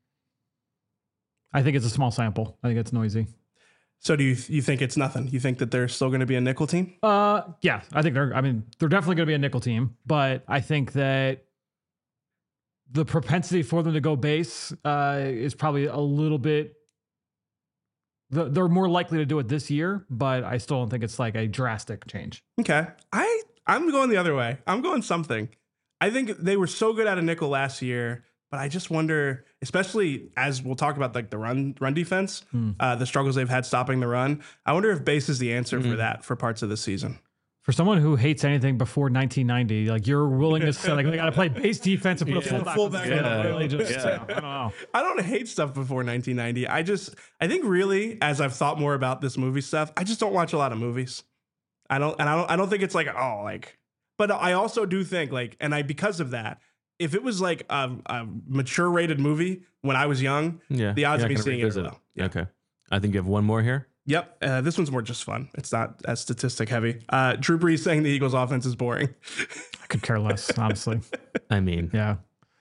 I think it's a small sample. I think it's noisy. So do you think it's nothing? You think that they're still going to be a nickel team? Yeah, I think they're definitely going to be a nickel team, but I think that the propensity for them to go base is probably a little bit. They're more likely to do it this year, but I still don't think it's like a drastic change. Okay. I'm going the other way. I'm going something. I think they were so good at a nickel last year, but I just wonder, especially as we'll talk about like the run defense, the struggles they've had stopping the run. I wonder if base is the answer for that for parts of the season. For someone who hates anything before 1990, like your willingness to say, like, they got to play base defense and put a fullback. Really just, I don't know. I don't hate stuff before 1990. I think really, as I've thought more about this movie stuff, I just don't watch a lot of movies. I don't think it's but I also do think because of that, if it was like a mature rated movie when I was young, the odds of me seeing it are low. Yeah. Okay. I think you have one more here. Yep. This one's more just fun. It's not as statistic heavy. Drew Brees saying the Eagles offense is boring. I could care less, honestly. I mean, Yeah.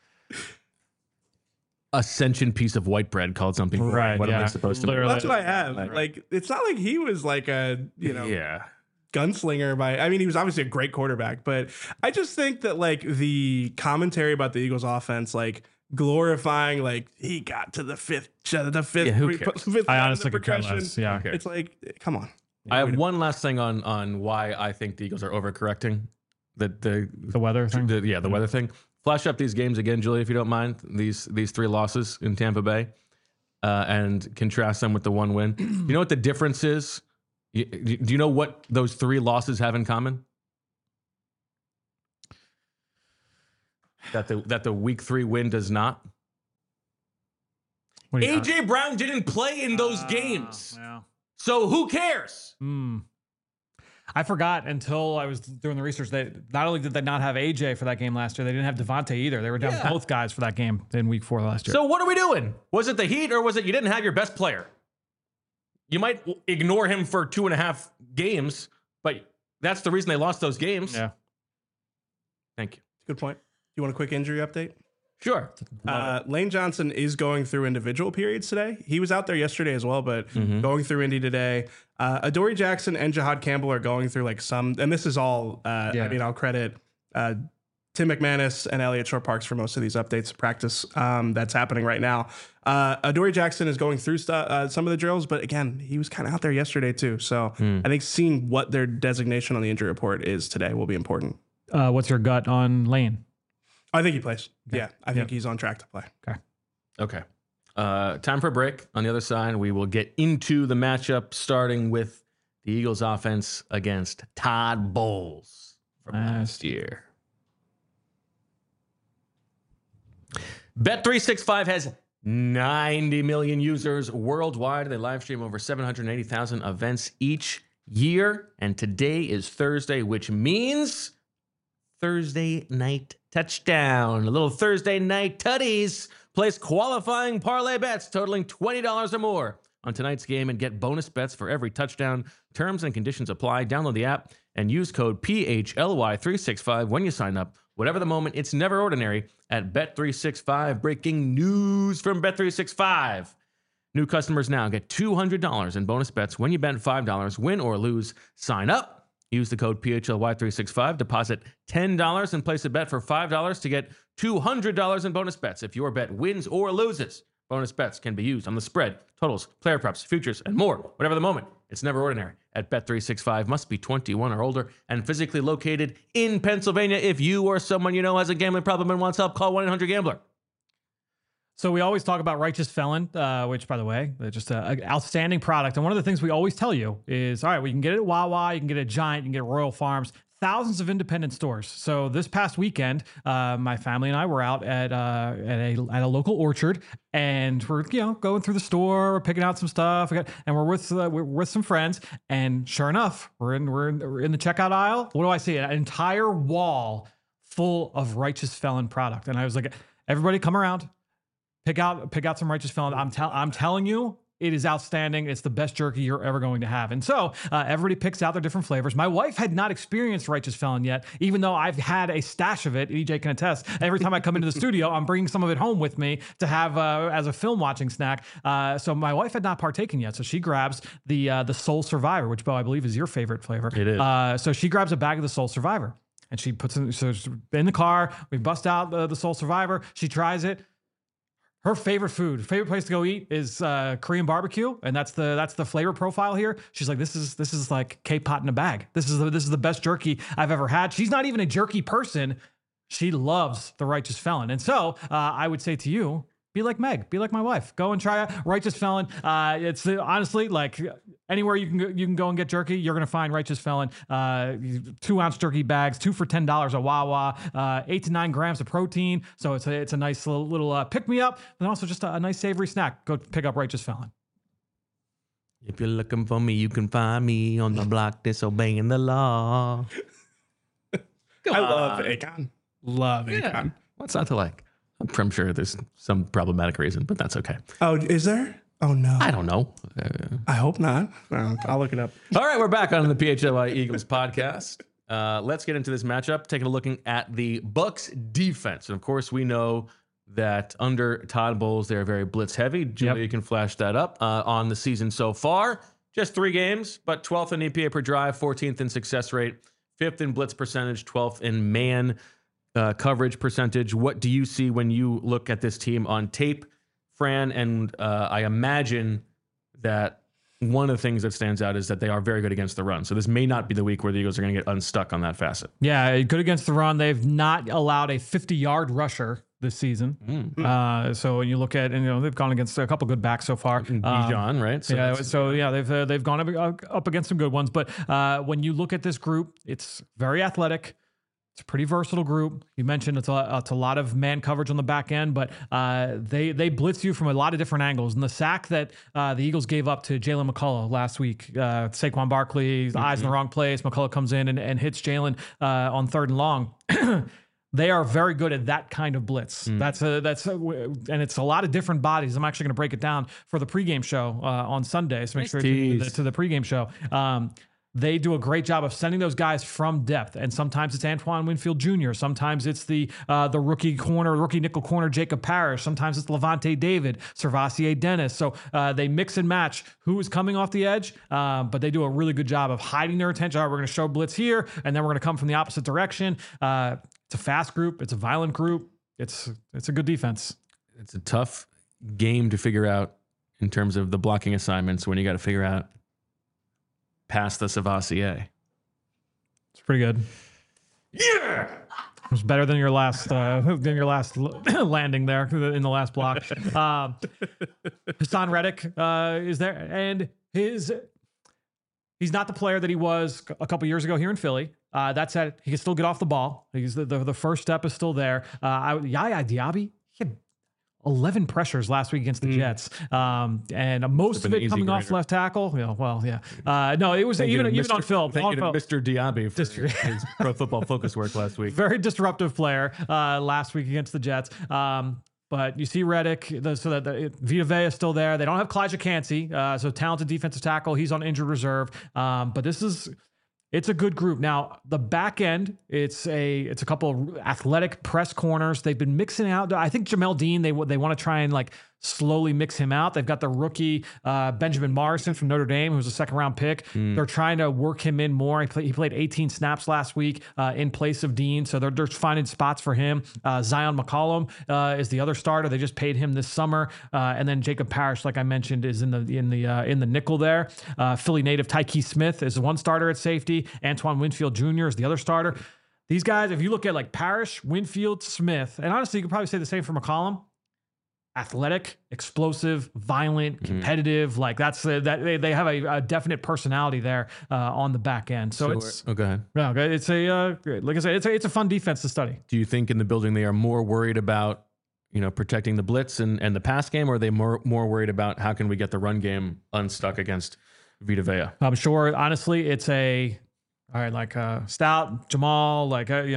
a sentient piece of white bread called something. Right, What am I yeah. supposed to? Literally. That's what I have. Like, it's not like he was like a, Yeah. gunslinger he was obviously a great quarterback, but I just think that like the commentary about the Eagles offense, like glorifying like he got to the fifth who cares? fifth I round honestly in the could care progression. less. Yeah. It's like, come on. I have one last thing on why I think the Eagles are overcorrecting. The weather thing? the weather thing. Flash up these games again, Julie, if you don't mind. These 3 losses in Tampa Bay, and contrast them with the 1 win. You know what the difference is? Do you know what those 3 losses have in common? That the week 3 win does not. What do you got? AJ Brown didn't play in those games, Yeah. so who cares? I forgot until I was doing the research that not only did they not have AJ for that game last year, they didn't have Devontae either. They were down Yeah. both guys for that game in week 4 last year. So what are we doing? Was it the Heat or was it you didn't have your best player? You might ignore him for 2.5 games, but that's the reason they lost those games. Yeah. Thank you. Good point. You want a quick injury update? Sure. Lane Johnson is going through individual periods today. He was out there yesterday as well, but going through Indy today. Adoree Jackson and Jahad Campbell are going through like some, and this is all, I'll credit Tim McManus and Elliott Shore-Parks for most of these updates of practice that's happening right now. Adoree Jackson is going through some of the drills, but again, he was kind of out there yesterday too. So I think seeing what their designation on the injury report is today will be important. What's your gut on Lane? I think he plays. Okay. Yeah, I think he's on track to play. Okay. Time for a break. On the other side, we will get into the matchup, starting with the Eagles offense against Todd Bowles from last year. Bet365 has 90 million users worldwide. They live stream over 780,000 events each year. And today is Thursday, which means Thursday night touchdown. A little Thursday night tutties. Place qualifying parlay bets totaling $20 or more on tonight's game and get bonus bets for every touchdown. Terms and conditions apply. Download the app and use code PHLY365 when you sign up. Whatever the moment, it's never ordinary at Bet365. Breaking news from Bet365. New customers now get $200 in bonus bets when you bet $5, win or lose. Sign up. Use the code PHLY365. Deposit $10 and place a bet for $5 to get $200 in bonus bets if your bet wins or loses. Bonus bets can be used on the spread, totals, player props, futures, and more. Whatever the moment, it's never ordinary. At Bet365, must be 21 or older and physically located in Pennsylvania. If you or someone you know has a gambling problem and wants help, call 1-800-GAMBLER. So we always talk about Righteous Felon, which, by the way, they're just an outstanding product. And one of the things we always tell you is, all right, we can get it at Wawa, you can get it at Giant, you can get it at Royal Farms, thousands of independent stores. So this past weekend, my family and I were out at a local orchard, and we're going through the store, we're picking out some stuff, and we're with some friends. And sure enough, we're in the checkout aisle. What do I see? An entire wall full of Righteous Felon product. And I was like, everybody, come around. Pick out some Righteous Felon. I'm telling you, it is outstanding. It's the best jerky you're ever going to have. And so everybody picks out their different flavors. My wife had not experienced Righteous Felon yet, even though I've had a stash of it. EJ can attest. Every time I come into the studio, I'm bringing some of it home with me to have as a film watching snack. So my wife had not partaken yet. So she grabs the Soul Survivor, which, Bo, I believe is your favorite flavor. It is. So she grabs a bag of the Soul Survivor and she puts it in the car. We bust out the Soul Survivor. She tries it. Her favorite place to go eat is Korean barbecue, and that's the flavor profile here. She's like, this is like K-pot in a bag. This is the best jerky I've ever had. She's not even a jerky person. She loves the Righteous Felon, and so I would say to you, be like Meg, be like my wife. Go and try Righteous Felon. It's honestly like anywhere you can go and get jerky, you're gonna find Righteous Felon. 2-ounce jerky bags, 2 for $10 at Wawa. 8 to 9 grams of protein. So it's a nice little pick me up, and also just a nice savory snack. Go pick up Righteous Felon. If you're looking for me, you can find me on the block disobeying the law. I love Akon. Love Akon. What's not to like? I'm sure there's some problematic reason, but that's okay. Oh, is there? Oh, no. I don't know. I hope not. I'll look it up. All right, we're back on the PHLY Eagles podcast. Let's get into this matchup, taking a look at the Bucks defense. And, of course, we know that under Todd Bowles, they're very blitz heavy. Julia, you can flash that up on the season so far. Just 3 games, but 12th in EPA per drive, 14th in success rate, 5th in blitz percentage, 12th in man coverage percentage. What do you see when you look at this team on tape, Fran? And I imagine that one of the things that stands out is that they are very good against the run. So this may not be the week where the Eagles are going to get unstuck on that facet. Yeah, good against the run. They've not allowed a 50-yard rusher this season. So when you look at, and they've gone against a couple good backs so far. Bijan, right? So they've gone up against some good ones. But when you look at this group, it's very athletic. It's a pretty versatile group. You mentioned it's a lot of man coverage on the back end, but they blitz you from a lot of different angles. And the sack that the Eagles gave up to Jalen McCullough last week, Saquon Barkley, eyes in the wrong place. McCullough comes in and hits Jalen on 3rd and long. They are very good at that kind of blitz. And it's a lot of different bodies. I'm actually going to break it down for the pregame show on Sunday. So make sure you tune to the pregame show. They do a great job of sending those guys from depth. And sometimes it's Antoine Winfield Jr. Sometimes it's the rookie nickel corner, Jacob Parrish. Sometimes it's Levante David, Servassier Dennis. So they mix and match who is coming off the edge, but they do a really good job of hiding their attention. All right, we're going to show blitz here, and then we're going to come from the opposite direction. It's a fast group. It's a violent group. It's a good defense. It's a tough game to figure out in terms of the blocking assignments when you got to figure out past the Savassier. It's pretty good. Yeah. It was better than your last landing there in the last block. Hassan Reddick is there, and he's not the player that he was a couple years ago here in Philly. That said, he can still get off the ball. He's the first step is still there. Yaya Diaby, he had 11 pressures last week against the Jets, and most of it coming off left tackle. Yeah, no, it was even on film. Thank you to Mr. Diaby for his Pro Football Focus work last week. Very disruptive player last week against the Jets. But you see Reddick, so that Vita Vea is still there. They don't have Kalijah Kancey, so talented defensive tackle. He's on injured reserve. But it's a good group. Now, the back end, it's a couple of athletic press corners. They've been mixing out. I think Jamel Dean, they want to try and like slowly mix him out. They've got the rookie Benjamin Morrison from Notre Dame, who was a second-round pick. They're trying to work him in more. He played 18 snaps last week in place of Dean, so they're finding spots for him. Zion McCollum is the other starter. They just paid him this summer, and then Jacob Parrish, like I mentioned, is in the nickel there. Philly native Tyke Smith is the one starter at safety. Antoine Winfield Jr. is the other starter. These guys, if you look at like Parrish, Winfield, Smith, and honestly, you could probably say the same for McCollum. Athletic, explosive, violent, competitive. Like they have a definite personality there on the back end. So it's go ahead. Yeah, it's like I said, it's a fun defense to study. Do you think in the building they are more worried about protecting the blitz and the pass game, or are they more worried about how can we get the run game unstuck against Vita Vea? I'm sure. Honestly, it's Stout, Jamal,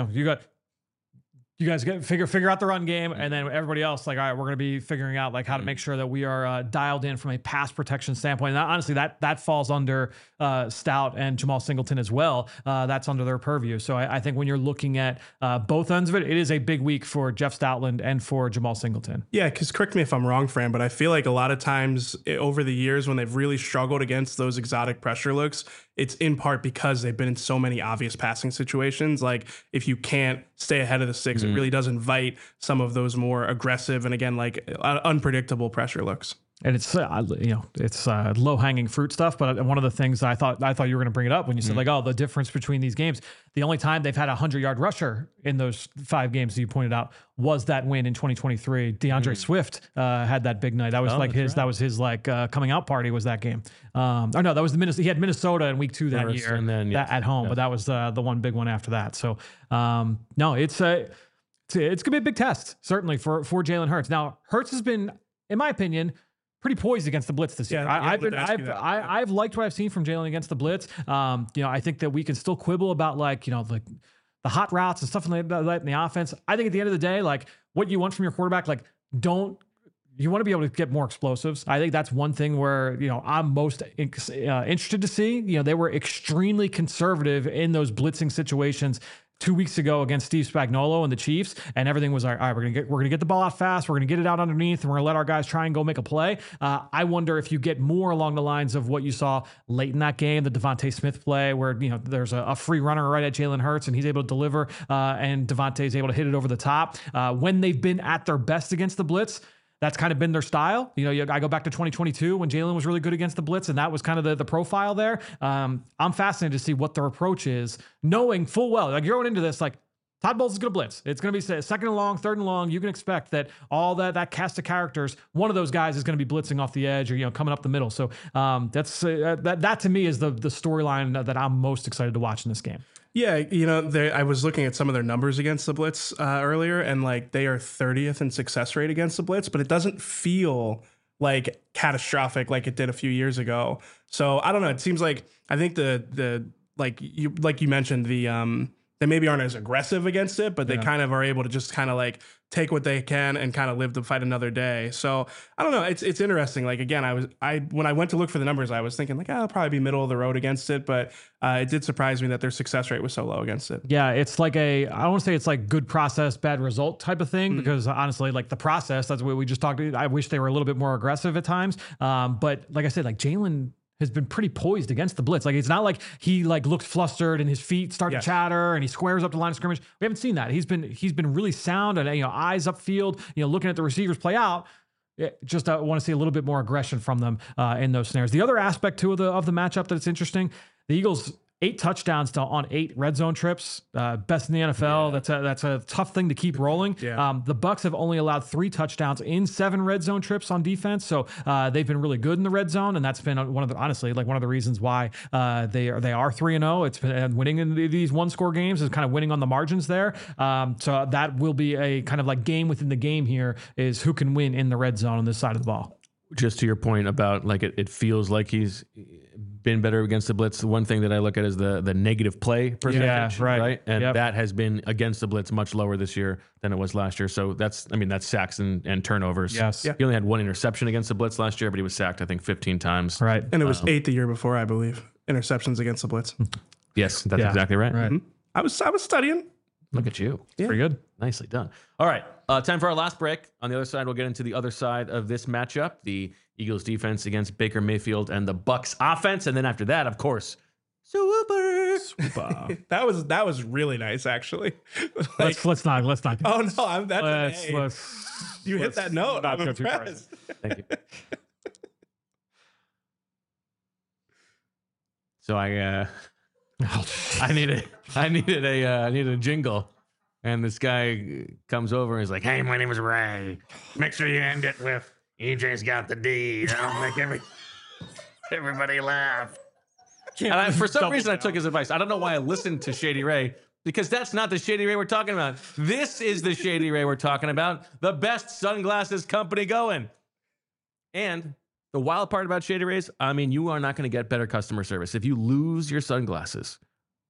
you guys figure out the run game, and then everybody else, like, all right, we're going to be figuring out like how to make sure that we are dialed in from a pass protection standpoint. And honestly, that falls under Stout and Jamal Singleton as well. That's under their purview. So I think when you're looking at both ends of it, it is a big week for Jeff Stoutland and for Jamal Singleton. Yeah, because correct me if I'm wrong, Fran, but I feel like a lot of times over the years when they've really struggled against those exotic pressure looks, it's in part because they've been in so many obvious passing situations. Like if you can't stay ahead of the sticks, it really does invite some of those more aggressive and again, like unpredictable pressure looks. And it's low hanging fruit stuff. But one of the things I thought you were going to bring it up when you said the difference between these games, the only time they've had a 100-yard rusher in those 5 games that you pointed out was that win in 2023. DeAndre Swift had that big night. That was that was his coming out party was that game. That was he had Minnesota in week 2 that year and then, at home. Yeah. But that was the one big one after that. So it's going to be a big test, certainly for Jalen Hurts. Now, Hurts has been, in my opinion, pretty poised against the blitz this year. I've liked what I've seen from Jalen against the blitz. I think that we can still quibble about the hot routes and stuff like that in the offense. I think at the end of the day, what you want from your quarterback, you want to be able to get more explosives. I think that's one thing where, I'm most interested to see. They were extremely conservative in those blitzing situations 2 weeks ago against Steve Spagnuolo and the Chiefs, and everything was like, all right, we're gonna get the ball out fast, we're gonna get it out underneath, and we're gonna let our guys try and go make a play. I wonder if you get more along the lines of what you saw late in that game, the Devontae Smith play, where there's a free runner right at Jalen Hurts, and he's able to deliver, and Devontae's able to hit it over the top. When they've been at their best against the blitz, that's kind of been their style. I go back to 2022 when Jalen was really good against the blitz, and that was kind of the profile there. I'm fascinated to see what their approach is, knowing full well, you're going into this, Todd Bowles is going to blitz. It's going to be second and long, third and long. You can expect that all that cast of characters, one of those guys is going to be blitzing off the edge or, coming up the middle. So that's that to me is the storyline that I'm most excited to watch in this game. Yeah, I was looking at some of their numbers against the blitz earlier, and they are 30th in success rate against the blitz, but it doesn't feel catastrophic like it did a few years ago. So I don't know. It seems like I think like you mentioned they maybe aren't as aggressive against it, but they kind of are able to just kind of take what they can and kind of live to fight another day. So I don't know. It's interesting. Again, when I went to look for the numbers, I was thinking I'll probably be middle of the road against it, but it did surprise me that their success rate was so low against it. Yeah, it's I don't want to say it's good process, bad result type of thing, because honestly, the process, that's what we just talked about. I wish they were a little bit more aggressive at times. But like I said, Jalen has been pretty poised against the blitz. Like, it's not like he like looks flustered and his feet start to chatter and he squares up the line of scrimmage. We haven't seen that. He's been really sound and, eyes upfield, looking at the receivers play out. Just want to see a little bit more aggression from them in those snares. The other aspect too of the matchup that's interesting, the Eagles 8 touchdowns on 8 red zone trips, best in the NFL. Yeah. That's a tough thing to keep rolling. Yeah. The Bucs have only allowed 3 touchdowns in 7 red zone trips on defense, so they've been really good in the red zone, and that's been one of the reasons why they are 3-0. It's been winning in these 1-score games is kind of winning on the margins there. So that will be a kind of like game within the game here is who can win in the red zone on this side of the ball. Just to your point about like it feels like he's been better against the blitz. The one thing that I look at is the negative play percentage, right? And that has been against the blitz much lower this year than it was last year. So that's sacks and turnovers. Yes. He only had 1 interception against the blitz last year, but he was sacked, I think, 15 times. Right. And it was 8 the year before, I believe, interceptions against the blitz. Yes, that's exactly right. Right. Mm-hmm. I was studying. Look at you. Yeah. Pretty good. Nicely done. All right. Time for our last break. On the other side, we'll get into the other side of this matchup, the Eagles defense against Baker Mayfield and the Bucs offense. And then after that, of course, Super. that was really nice, actually. Let's not. Oh no, you hit that note. I'm impressed. Thank you. So I needed a jingle. And this guy comes over and he's like, "Hey, my name is Ray. Make sure you end it with EJ's got the D. That'll make everybody laugh." And for some reason, I took his advice. I don't know why I listened to Shady Ray, because that's not the Shady Ray we're talking about. This is the Shady Ray we're talking about. The best sunglasses company going. And the wild part about Shady Rays, you are not going to get better customer service. If you lose your sunglasses,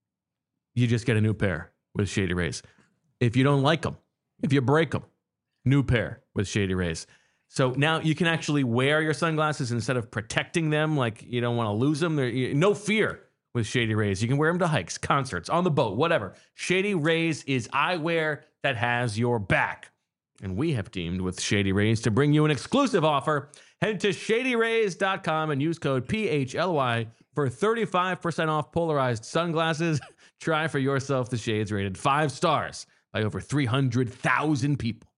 you just get a new pair with Shady Rays. If you don't like them, if you break them, new pair with Shady Rays. So now you can actually wear your sunglasses instead of protecting them like you don't want to lose them. No fear with Shady Rays. You can wear them to hikes, concerts, on the boat, whatever. Shady Rays is eyewear that has your back. And we have teamed with Shady Rays to bring you an exclusive offer. Head to shadyrays.com and use code PHLY for 35% off polarized sunglasses. Try for yourself the shades rated 5 stars by over 300,000 people.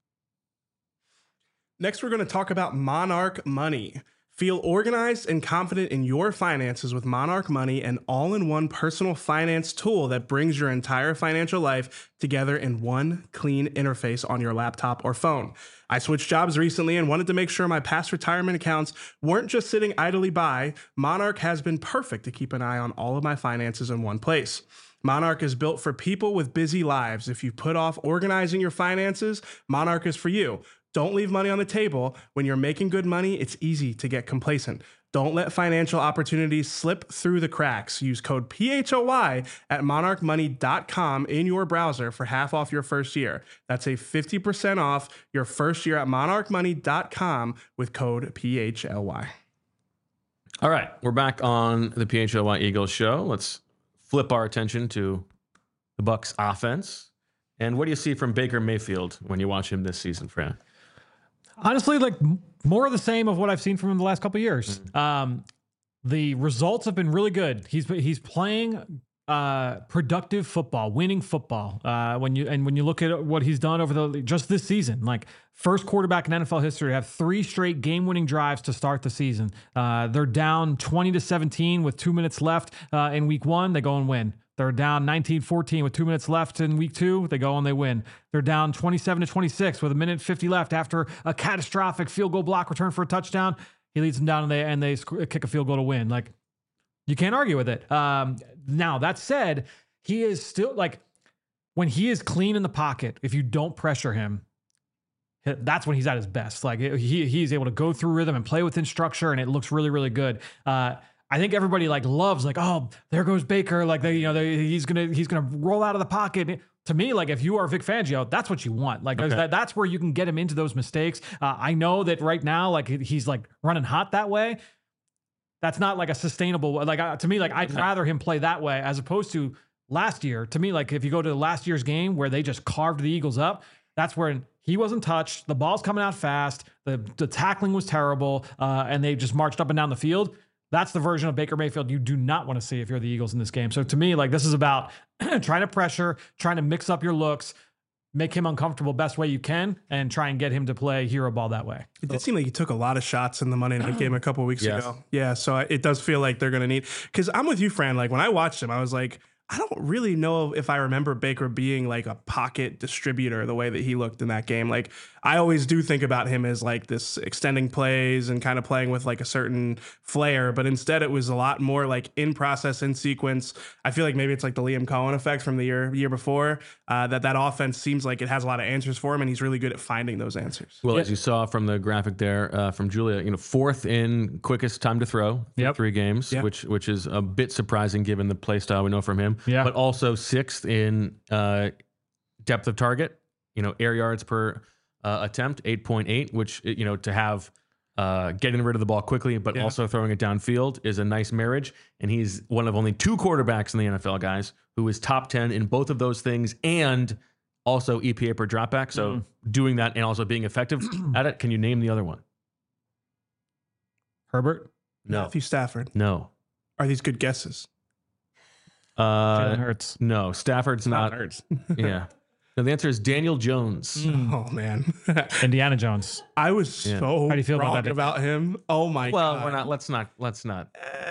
Next, we're going to talk about Monarch Money. Feel organized and confident in your finances with Monarch Money, an all-in-one personal finance tool that brings your entire financial life together in one clean interface on your laptop or phone. I switched jobs recently and wanted to make sure my past retirement accounts weren't just sitting idly by. Monarch has been perfect to keep an eye on all of my finances in one place. Monarch is built for people with busy lives. If you put off organizing your finances, Monarch is for you. Don't leave money on the table. When you're making good money, it's easy to get complacent. Don't let financial opportunities slip through the cracks. Use code PHOY at monarchmoney.com in your browser for half off your first year. That's a 50% off your first year at monarchmoney.com with code PHLY. All right, we're back on the PHLY Eagles show. Let's flip our attention to the Bucs offense. And what do you see from Baker Mayfield when you watch him this season, Fran? Honestly, like more of the same of what I've seen from him the last couple of years. Mm-hmm. The results have been really good. He's playing productive football, winning football. When you look at what he's done over just this season, like first quarterback in NFL history to have 3 straight game-winning drives to start the season. They're down 20-17 with 2 minutes left in week 1. They go and win. They're down 19-14 with 2 minutes left in week 2. They go and they win. They're down 27-26 with 1:50 left after a catastrophic field goal block return for a touchdown. He leads them down and they kick a field goal to win. Like, you can't argue with it. Now, that said, he is still like, when he is clean in the pocket, if you don't pressure him, that's when he's at his best. Like he's able to go through rhythm and play within structure, and it looks really, really good. I think everybody loves oh, there goes Baker. He's gonna roll out of the pocket. To me, if you are Vic Fangio, that's what you want. That's where you can get him into those mistakes. I know that right now, he's running hot that way. That's not a sustainable. To me, I'd rather him play that way as opposed to last year. To me, if you go to last year's game where they just carved the Eagles up, that's where he wasn't touched. The ball's coming out fast. The tackling was terrible, and they just marched up and down the field. That's the version of Baker Mayfield you do not want to see if you're the Eagles in this game. So to me, like, this is about trying to pressure, trying to mix up your looks, make him uncomfortable best way you can, and try and get him to play hero ball that way. It did seem like he took a lot of shots in the Monday night game a couple of weeks ago. Yeah, so it does feel like they're going to need, because I'm with you, Fran. Like, when I watched him, I was like, I don't really know if I remember Baker being like a pocket distributor the way that he looked in that game. Like, I always do think about him as like this extending plays and kind of playing with like a certain flair, but instead it was a lot more like in process, in sequence. I feel like maybe it's like the Liam Cohen effect from the year before, that offense seems like it has a lot of answers for him, and he's really good at finding those answers. Well, as you saw from the graphic there from Julia, fourth in quickest time to throw for 3 games, which is a bit surprising given the play style we know from him. Yeah. But also 6th in depth of target, air yards per attempt, 8.8, which, to have getting rid of the ball quickly, but also throwing it downfield is a nice marriage. And he's one of only 2 quarterbacks in the NFL, guys, who is top 10 in both of those things and also EPA per dropback. So doing that and also being effective at it. Can you name the other one? Herbert? No. Matthew Stafford. No. Are these good guesses? Jalen Hurts. No, Stafford's not. Hurts. Yeah. No, the answer is Daniel Jones. Oh, man. Indiana Jones. I was so How do you feel wrong about that? about him. Oh, my Well, God. we're not. Let's not.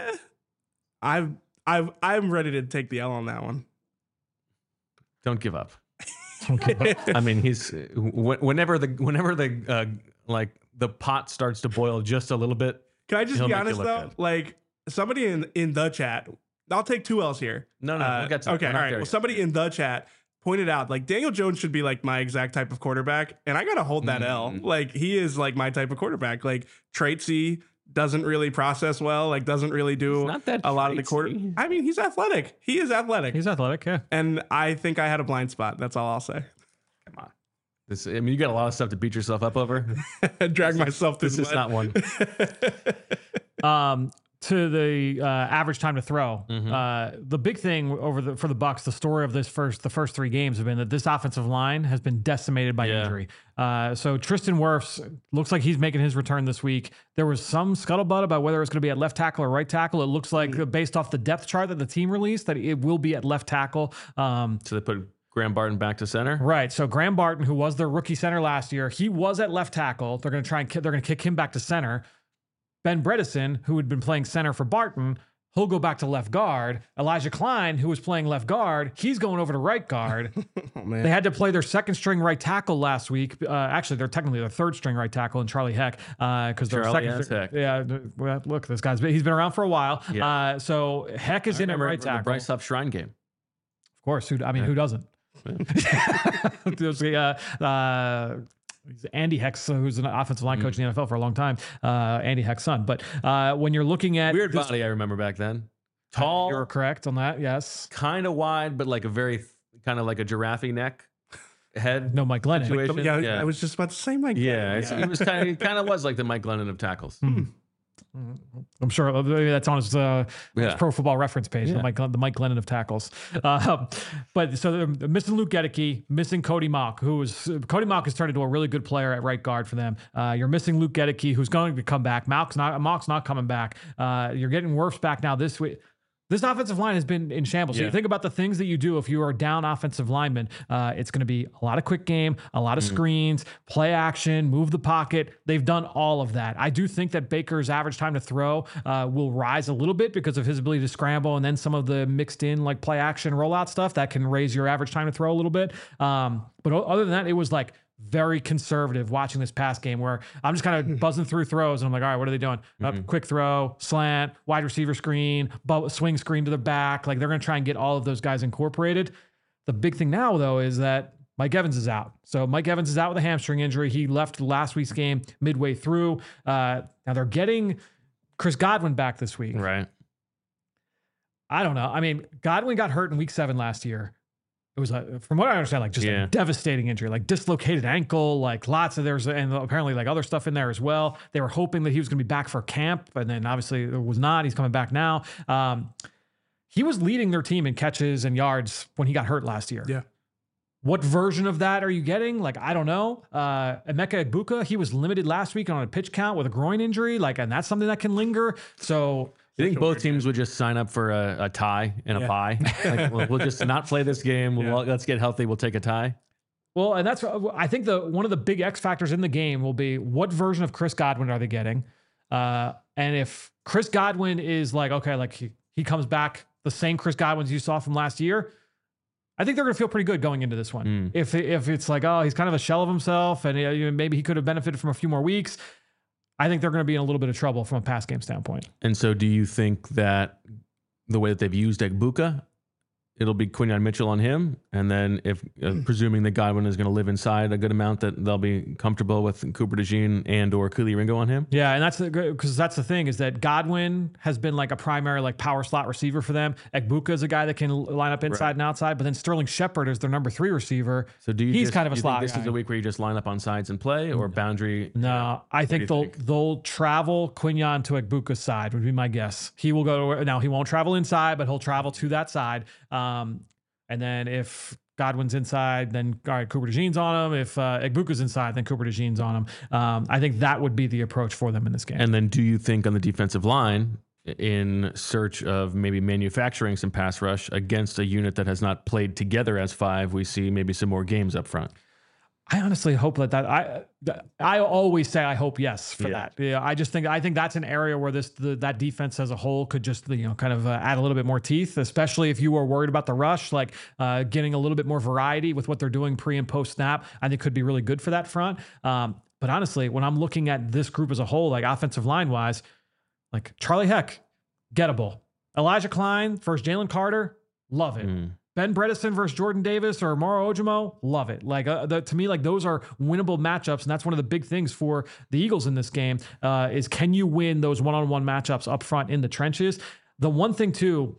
I'm ready to take the L on that one. Don't give up. I mean, he's whenever the like the pot starts to boil just a little bit. Can I just He'll be make you honest look though? good. Like, somebody in the chat, I'll take 2 L's here. No, we'll get to okay, we're all not right. there Well, yet. somebody in the chat pointed out like Daniel Jones should be like my exact type of quarterback, and I gotta hold that L. Like, he is like my type of quarterback. Like, traitsy, doesn't really process well, like doesn't really do not that a lot of the quarter. traitsy. I mean, he's athletic. He is athletic. He's athletic, yeah. And I think I had a blind spot. That's all I'll say. Come on. You got a lot of stuff to beat yourself up over. Drag myself through This the is mud. not one. To the average time to throw, the big thing for the Bucs, the story of the first 3 games have been that this offensive line has been decimated by injury. So Tristan Wirfs looks like he's making his return this week. There was some scuttlebutt about whether it's going to be at left tackle or right tackle. It looks like based off the depth chart that the team released that it will be at left tackle. So they put Graham Barton back to center. Right. So Graham Barton, who was their rookie center last year, he was at left tackle. They're going to kick him back to center. Ben Bredesen, who had been playing center for Barton, he'll go back to left guard. Elijah Klein, who was playing left guard, he's going over to right guard. Oh, man. They had to play their second string right tackle last week. Actually, they're technically their third string right tackle in Charlie Heck, because their Charlie, second. Heck. Yeah, well, look, he's been around for a while. Yeah. So Heck is in at right the tackle. Bryce Huff Shrine game. Of course, who doesn't? There's Andy Heck's, who's an offensive line coach in the NFL for a long time, Andy Heck's son. But when you're looking at Weird body, I remember back then. Tall, you're correct on that. Yes. kind of wide, but like a very kind of like a giraffe neck head. No, Mike Glennon. situation. Yeah, I was just about to say Mike. Yeah, he was kind of was like the Mike Glennon of tackles. I'm sure maybe that's on his Pro Football Reference page, the Mike Glennon of tackles. But so they're missing Luke Gedeke, missing Cody Mock, Cody Mock has turned into a really good player at right guard for them. You're missing Luke Gedeke, who's going to come back. Mock's not coming back. You're getting Wirfs back now this week. This offensive line has been in shambles. So you think about the things that you do if you are down offensive linemen. It's going to be a lot of quick game, a lot of screens, play action, move the pocket. They've done all of that. I do think that Baker's average time to throw will rise a little bit because of his ability to scramble and then some of the mixed in like play action rollout stuff that can raise your average time to throw a little bit. But other than that, it was like very conservative watching this pass game where I'm just kind of buzzing through throws and I'm like, all right, what are they doing? Quick throw, slant, wide receiver screen, swing screen to the back. Like they're going to try and get all of those guys incorporated. The big thing now though is that Mike Evans is out. So Mike Evans is out with a hamstring injury. He left last week's game midway through. Now they're getting Chris Godwin back this week. Right. I don't know. I mean, Godwin got hurt in week 7 last year. It was, from what I understand, like just a devastating injury, like dislocated ankle, like lots of and apparently like other stuff in there as well. They were hoping that he was going to be back for camp, and then obviously it was not. He's coming back now. He was leading their team in catches and yards when he got hurt last year. Yeah. What version of that are you getting? Like, I don't know. Emeka Egbuka, he was limited last week on a pitch count with a groin injury, and that's something that can linger. So You think both teams would just sign up for a tie and a bye? Like, we'll just not play this game. Let's get healthy. We'll take a tie. Well, and that's, I think one of the big X factors in the game will be what version of Chris Godwin are they getting? And if Chris Godwin is like, okay, like he comes back the same Chris Godwins you saw from last year, I think they're going to feel pretty good going into this one. If it's like, oh, he's kind of a shell of himself and maybe he could have benefited from a few more weeks, I think they're going to be in a little bit of trouble from a pass game standpoint. And so do you think that the way that they've used Egbuka, it'll be Quinyon Mitchell on him, and then if presuming that Godwin is going to live inside a good amount, that they'll be comfortable with Cooper DeJean and or Kelee Ringo on him? Yeah, and because that's the thing is that Godwin has been like a primary like power slot receiver for them. Egbuka is a guy that can line up inside and outside, but then Sterling Shepard is their number 3 receiver. So he's kind of a slot think this guy. is a week where you just line up on sides and play, or boundary? No, I think they'll travel Quinyon to Egbuka's side would be my guess. He will go to, now he won't travel inside, but he'll travel to that side. And then if Godwin's inside, then all right, Cooper DeJean's on him. If Egbuka's inside, then Cooper DeJean's on him. I think that would be the approach for them in this game. And then do you think on the defensive line, in search of maybe manufacturing some pass rush against a unit that has not played together as 5, we see maybe some more games up front? I honestly hope that I always say I hope yes for that. Yeah, I think that's an area where that defense as a whole could just kind of add a little bit more teeth, especially if you are worried about the rush, like getting a little bit more variety with what they're doing pre and post snap. I think could be really good for that front. But honestly, when I'm looking at this group as a whole, like offensive line wise, like Charlie Heck, gettable. Elijah Klein versus Jalen Carter, love it. Ben Bredesen versus Jordan Davis or Moro Ojimo, love it. Like to me, like those are winnable matchups, and that's one of the big things for the Eagles in this game is can you win those one-on-one matchups up front in the trenches? The one thing too,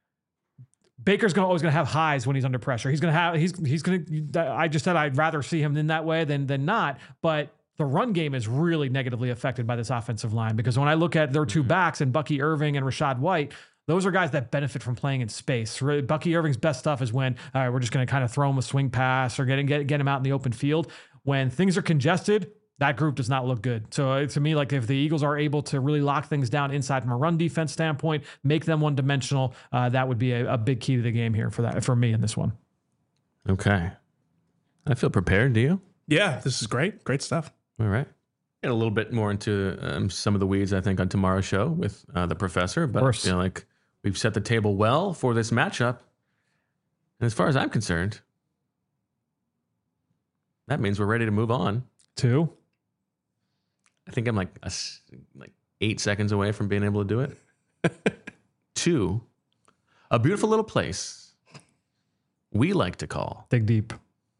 Baker's always going to have highs when he's under pressure. He's going to. I just said I'd rather see him in that way than not, but the run game is really negatively affected by this offensive line because when I look at their 2 backs and Bucky Irving and Rashad White, those are guys that benefit from playing in space. Bucky Irving's best stuff is when we're just going to kind of throw him a swing pass or get him out in the open field. When things are congested, that group does not look good. So to me, like if the Eagles are able to really lock things down inside from a run defense standpoint, make them one-dimensional, that would be a big key to the game here for me in this one. Okay. I feel prepared. Do you? Yeah, this is great. Great stuff. All right. Get a little bit more into some of the weeds, I think, on tomorrow's show with the professor. But I feel like we've set the table well for this matchup. And as far as I'm concerned, that means we're ready to move on. I think I'm like 8 seconds away from being able to do it. 2, a beautiful little place we like to call Dig Deep.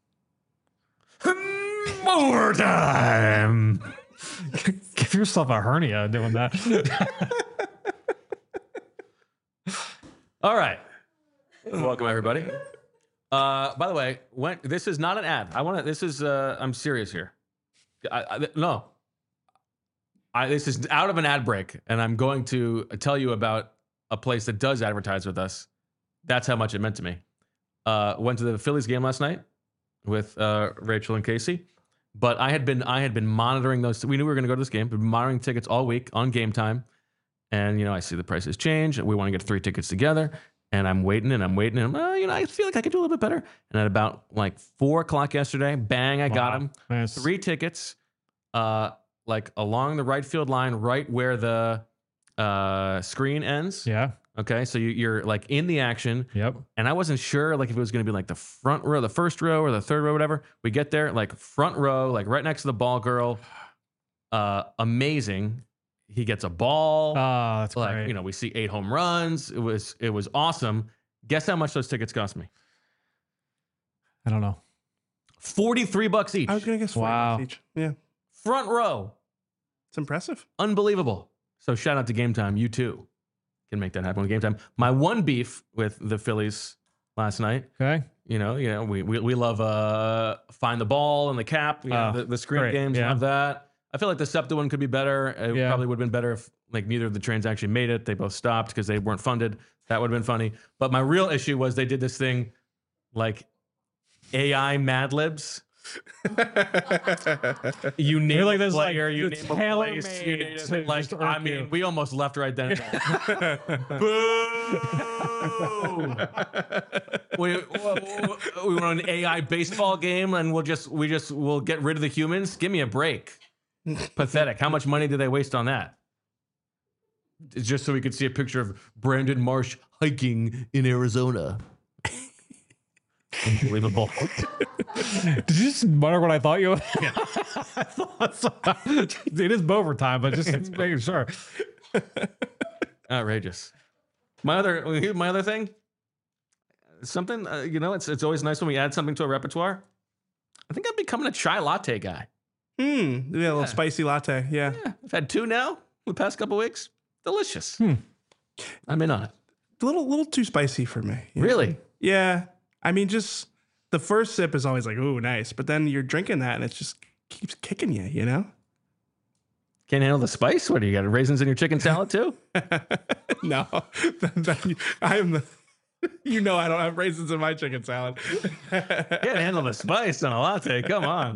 More time. Give yourself a hernia doing that. All right. Welcome, everybody. By the way, this is not an ad. I'm serious here. This is out of an ad break, and I'm going to tell you about a place that does advertise with us. That's how much it meant to me. Went to the Phillies game last night with Rachel and Casey. But I had been monitoring those. We knew we were going to go to this game. Been monitoring tickets all week on Game Time, and I see the prices change. We want to get 3 tickets together, and I'm waiting. And I feel like I could do a little bit better. And at about like 4:00 yesterday, bang! I got them. Nice. 3 tickets, like along the right field line, right where the screen ends. Yeah. Okay, so you're like in the action. Yep. And I wasn't sure like if it was going to be like the front row, the first row, or the third row, whatever. We get there, like front row, like right next to the ball girl. Amazing. He gets a ball. Oh, that's great. We see 8 home runs. It was awesome. Guess how much those tickets cost me? I don't know. $43 each. I was gonna guess $40 each. Yeah, front row. it's impressive. Unbelievable. So shout out to Game Time. You too can make that happen with Game Time. My one beef with the Phillies last night. Okay. We love Find the Ball and the cap. The screen games have that. I feel like the SEPTA one could be better. It probably would have been better if like neither of the trains actually made it. They both stopped because they weren't funded. That would have been funny. But my real issue was they did this thing like AI Mad Libs. You name You're like a this, like, player, you it's name a place, you tailor-made name to it. Like, just I irk mean, you. we almost left right then. Boo! we went on an AI baseball game, and we'll get rid of the humans. Give me a break. Pathetic. How much money did they waste on that? It's just so we could see a picture of Brandon Marsh hiking in Arizona. Unbelievable. Did you just mutter what I thought you? Yeah. I thought so. It is Bover time, but just making sure. Outrageous. My other thing. Something it's always nice when we add something to a repertoire. I think I'm becoming a chai latte guy. Yeah, a little spicy latte. Yeah. I've had 2 now the past couple weeks. Delicious. I'm in on it. A little too spicy for me. Yeah. Really? Yeah. I mean, just the first sip is always like, ooh, nice. But then you're drinking that and it just keeps kicking you, you know? Can't handle the spice? What do you got? Raisins in your chicken salad too? No. I am the. You know I don't have raisins in my chicken salad. Can't handle the spice on a latte. Come on.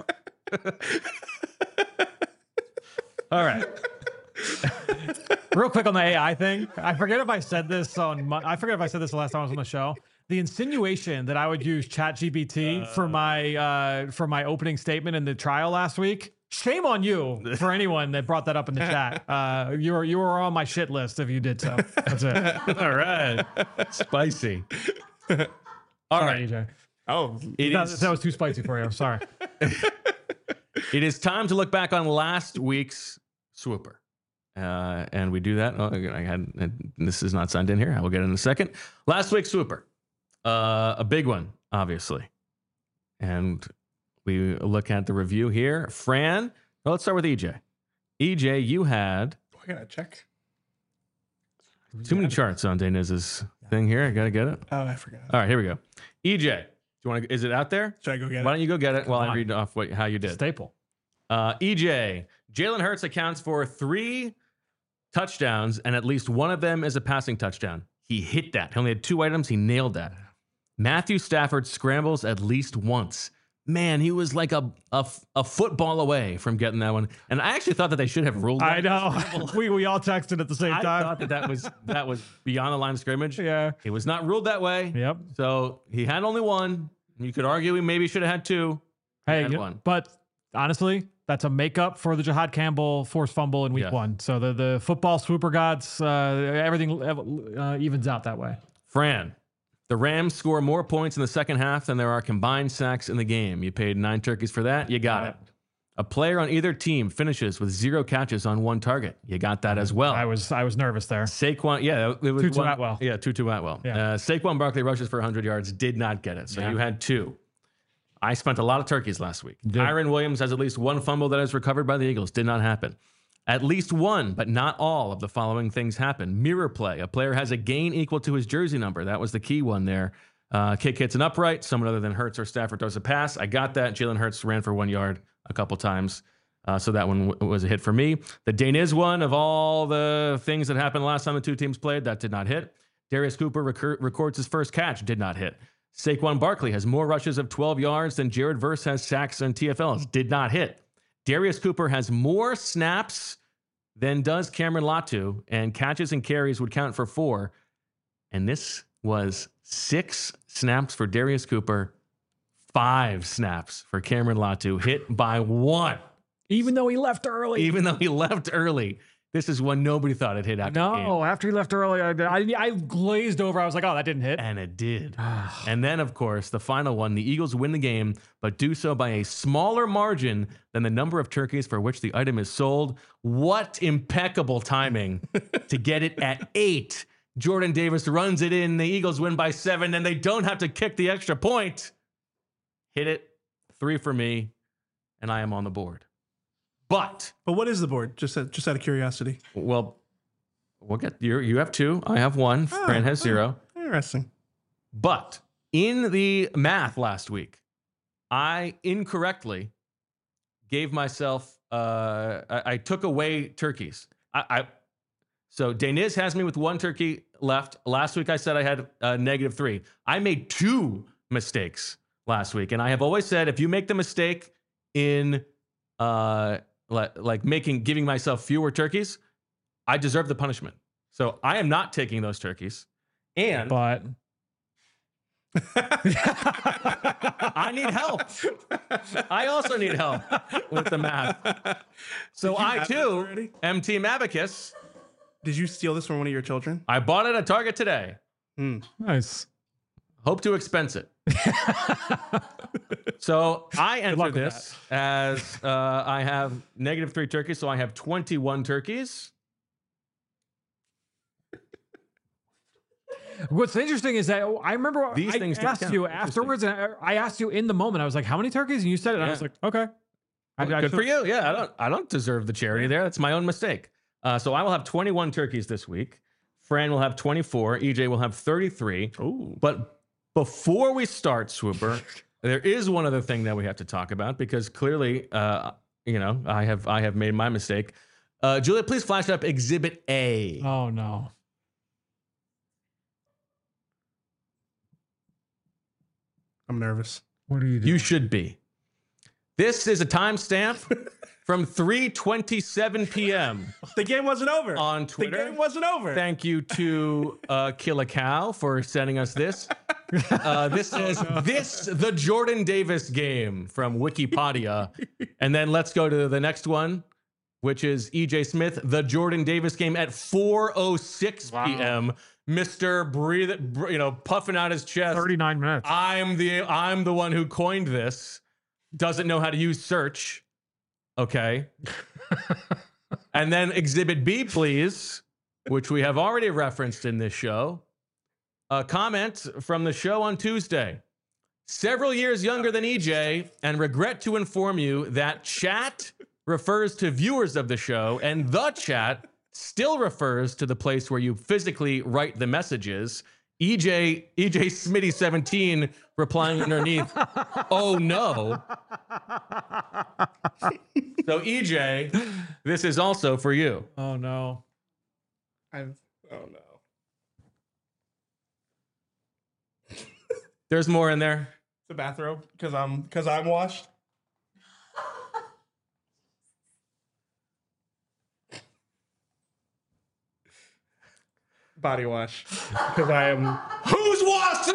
All right. Real quick on the AI thing. I forget if I said this the last time I was on the show. The insinuation that I would use ChatGPT for my opening statement in the trial last week. Shame on you for anyone that brought that up in the chat. You were on my shit list if you did so. That's it. All right. Spicy. All right. EJ. Oh, That was too spicy for you. Sorry. It is time to look back on last week's Swooper. And we do that. Oh, this is not signed in here. I will get it in a second. Last week's Swooper. A big one, obviously. And we look at the review here. Fran, well, let's start with EJ. EJ, you had... I gotta check. Too many charts on Dainiz's thing here. I gotta get it. Oh, I forgot. All right, here we go. EJ, do you want to? Is it out there? Should I go get it? Why don't you go get it while I read off how you did? Staple. EJ, Jalen Hurts accounts for 3 touchdowns, and at least one of them is a passing touchdown. He hit that. He only had 2 items. He nailed that. Matthew Stafford scrambles at least once. Man, he was like a football away from getting that one. And I actually thought that they should have ruled that. I know. we all texted at the same I time. thought that was beyond the line of scrimmage. Yeah. It was not ruled that way. Yep. So he had only 1. You could argue he maybe should have had 2. Hey, had 1. But honestly, that's a makeup for the Jahad Campbell forced fumble in week 1. So the football swooper gods, everything evens out that way. Fran, the Rams score more points in the second half than there are combined sacks in the game. You paid 9 turkeys for that. You got it. A player on either team finishes with 0 catches on 1 target. You got that as well. I was nervous there. Saquon, yeah, it was Tutu Atwell. Yeah, Tutu Atwell. Yeah. Saquon Barkley rushes for 100 yards, did not get it. So you had 2. I spent a lot of turkeys last week. Kyren Williams has at least 1 fumble that is recovered by the Eagles. Did not happen. At least 1, but not all of the following things happen. Mirror play. A player has a gain equal to his jersey number. That was the key one there. Kick hits an upright. Someone other than Hurts or Stafford throws a pass. I got that. Jalen Hurts ran for 1 yard a couple times. So that one was a hit for me. The Dainiz one, of all the things that happened last time the 2 teams played, that did not hit. Darius Cooper records his first catch. Did not hit. Saquon Barkley has more rushes of 12 yards than Jared Verse has sacks and TFLs. Did not hit. Darius Cooper has more snaps than does Cameron Latu, and catches and carries would count for 4. And this was 6 snaps for Darius Cooper, 5 snaps for Cameron Latu, hit by 1. Even though he left early. This is one nobody thought it hit after the game. After he left early, I glazed over. I was like, oh, that didn't hit. And it did. And then, of course, the final one, the Eagles win the game, but do so by a smaller margin than the number of turkeys for which the item is sold. What impeccable timing to get it at 8. Jordan Davis runs it in. The Eagles win by 7, and they don't have to kick the extra point. Hit it. 3 for me, and I am on the board. But what is the board? Just out of curiosity. Well, we'll get you have 2. I have 1. Fran has 0. Interesting. But in the math last week, I incorrectly gave myself. I took away turkeys. So Dainiz has me with 1 turkey left. Last week I said I had -3. I made 2 mistakes last week. And I have always said, if you make the mistake in giving myself fewer turkeys, I deserve the punishment. So I am not taking those turkeys. And But I need help. I also need help with the math. So I too am Team Abacus. Did you steal this from one of your children? I bought it at Target today. nice. Hope to expense it. So I enter luck with this as I have -3 turkeys, so I have 21 turkeys. What's interesting is that I remember These I things don't asked count. you afterwards, and I asked you in the moment. I was like, "How many turkeys?" And you said it. And I was like, "Okay." Good for you. Yeah, I don't deserve the charity there. That's my own mistake. So I will have 21 turkeys this week. Fran will have 24. EJ will have 33. Ooh. But before we start, Swooper, there is one other thing that we have to talk about because clearly, I have made my mistake. Julia, please flash up Exhibit A. Oh no. I'm nervous. What are you doing? You should be. This is a timestamp from 3:27 p.m. The game wasn't over. on Twitter. The game wasn't over. Thank you to Kill a Cow for sending us this. This is the Jordan Davis game from Wikipedia. And then let's go to the next one, which is EJ Smith, the Jordan Davis game at 4:06 p.m. Mr. puffing out his chest. 39 minutes. I'm the one who coined this. Doesn't know how to use search. Okay. And then Exhibit B, please, which we have already referenced in this show. A comment from the show on Tuesday. Several years younger than EJ, and regret to inform you that chat refers to viewers of the show, and the chat still refers to the place where you physically write the messages. EJ Smitty 17 replying underneath, "Oh no." So EJ, this is also for you. Oh no. Oh no. There's more in there. The bathrobe because I'm washed. Body wash because I am. Who's washed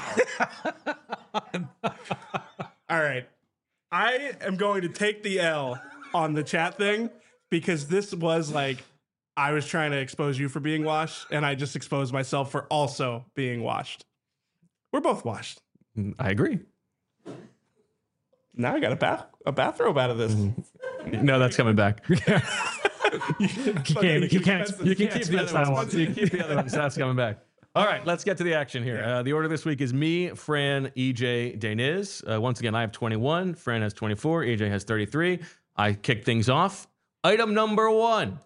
now? All right. I am going to take the L on the chat thing because this was like I was trying to expose you for being washed, and I just exposed myself for also being washed. We're both washed. I agree. Now I got a bathrobe out of this. No, that's coming back. You can't You can keep the other ones. You can keep the other ones. That's coming back. All right, let's get to the action here. The order this week is me, Fran, EJ, Deniz. Once again, I have 21. Fran has 24. EJ has 33. I kick things off. Item number 1.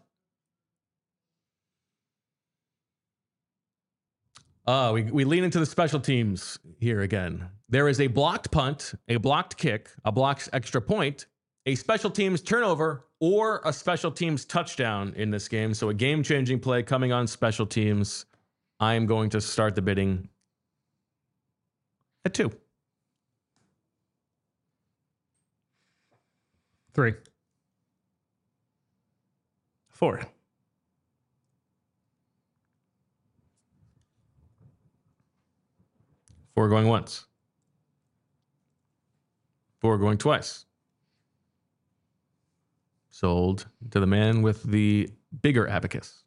We lean into the special teams here again. There is a blocked punt, a blocked kick, a blocked extra point, a special teams turnover, or a special teams touchdown in this game. So a game-changing play coming on special teams. I am going to start the bidding at 2. 3. 4. 4 going once. 4 going twice. Sold to the man with the bigger abacus.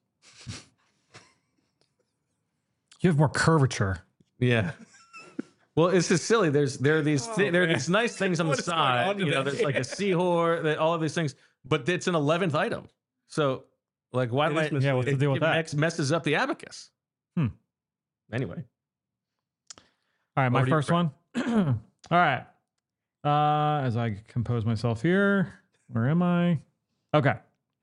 You have more curvature. Yeah. Well, it's just silly. There are these nice things on the What is going on side. today? There's like a seahorse, all of these things, but it's an 11th item. So, like, why do I? Yeah, what's the deal with that? Messes up the abacus. Anyway. All right, my Over to you, first Fran. one. All right. As I compose myself here, where am I? Okay.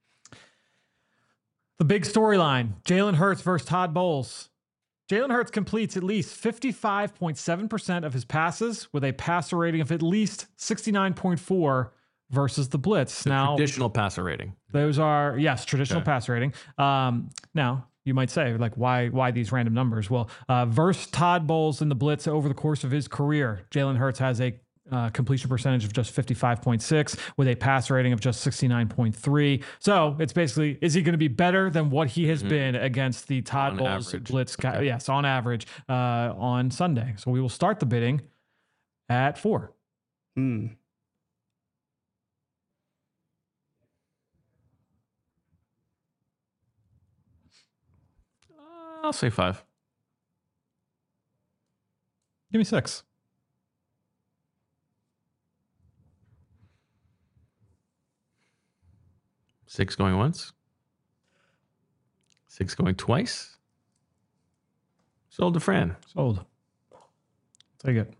The big storyline: Jalen Hurts versus Todd Bowles. Jalen Hurts completes at least 55.7% of his passes with a passer rating of at least 69.4 versus the blitz. Now, Traditional passer rating. those are, yes, traditional passer rating. Now, You might say, like, why these random numbers? Well, versus Todd Bowles in the blitz over the course of his career, Jalen Hurts has a completion percentage of just 55.6 with a pass rating of just 69.3. So it's basically, is he going to be better than what he has been against the Todd Bowles average. blitz guy? Okay. Yes, on average on Sunday. So we will start the bidding at 4. I'll say 5. Give me 6. Six going once. 6 going twice. Sold to Fran. Sold. Take it.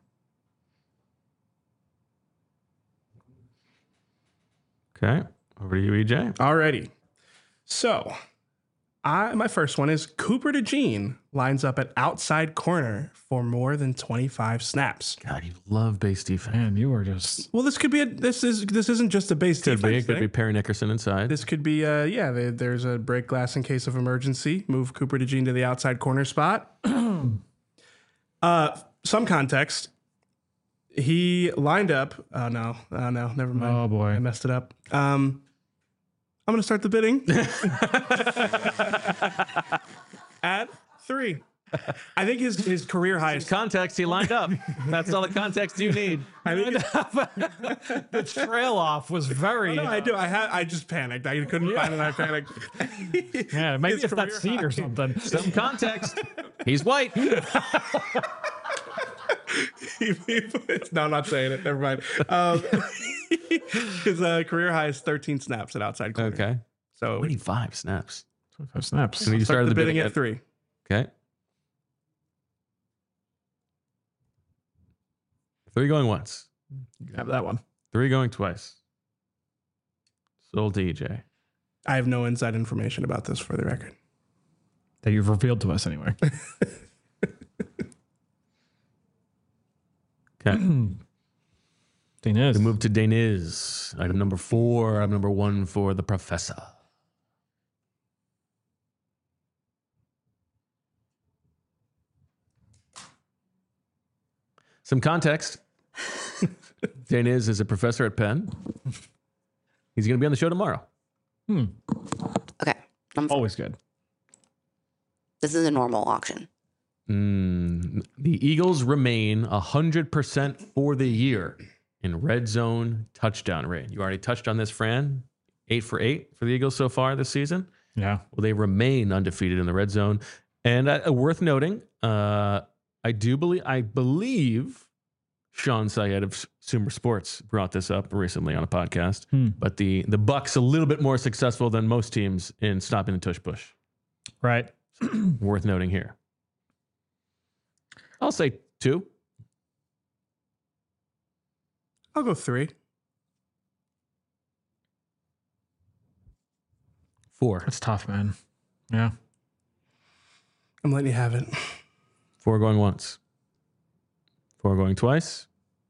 Okay. Over to you, EJ. Alrighty. So, my first one is Cooper DeJean lines up at outside corner for more than 25 snaps. God, you love base defense. Man, you are just... Well, this could be this isn't just a base Could be. defense It could thing. be Perry Nickerson inside. This could be there's a break glass in case of emergency. Move Cooper DeJean to the outside corner spot. Some context. He lined up. Oh no, never mind. Oh boy. I messed it up. I'm gonna start the bidding at 3. I think his career highest. Context, he lined up. That's all the context you need. I think The trail off was very... no, I do. I just panicked. I couldn't find it. I panicked. Yeah, maybe His it's that career seat or high. something. Some context. He's white. No, I'm not saying it. Never mind. His career high is 13 snaps at outside corner. Okay. So 25 snaps. 25 snaps. And you start started the the bidding at 3. Okay. 3 going once. You can have that one. 3 going twice. Sold to EJ. I have no inside information about this for the record. That you've revealed to us anyway. Okay. Daniz. We move to Daniz. Item number 4. Item number 1 for the professor. Some context. Daniz is a professor at Penn. He's going to be on the show tomorrow. Okay. Always good. This is a normal auction. The Eagles remain 100% for the year in red zone touchdown rate. You already touched on this, Fran. 8 for 8 for the Eagles so far this season. Yeah. Well, they remain undefeated in the red zone. And worth noting, I believe Sean Syed of Sumer Sports brought this up recently on a podcast. But the Bucs a little bit more successful than most teams in stopping the tush push. Right. Worth noting here. I'll say 2. I'll go 3. 4. That's tough, man. Yeah. I'm letting you have it. 4 going once. 4 going twice.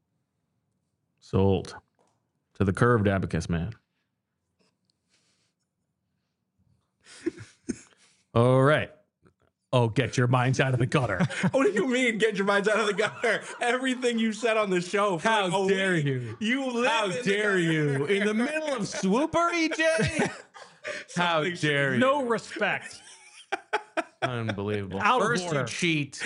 Sold to the curved abacus man. All right. Oh, get your minds out of the gutter. What do you mean, get your minds out of the gutter? Everything you said on the show. for How like a dare week, you? You live How in the dare you? gutter. In the middle of Swooper, EJ? How Something dare you? No respect. Unbelievable. Out of First order. you cheat.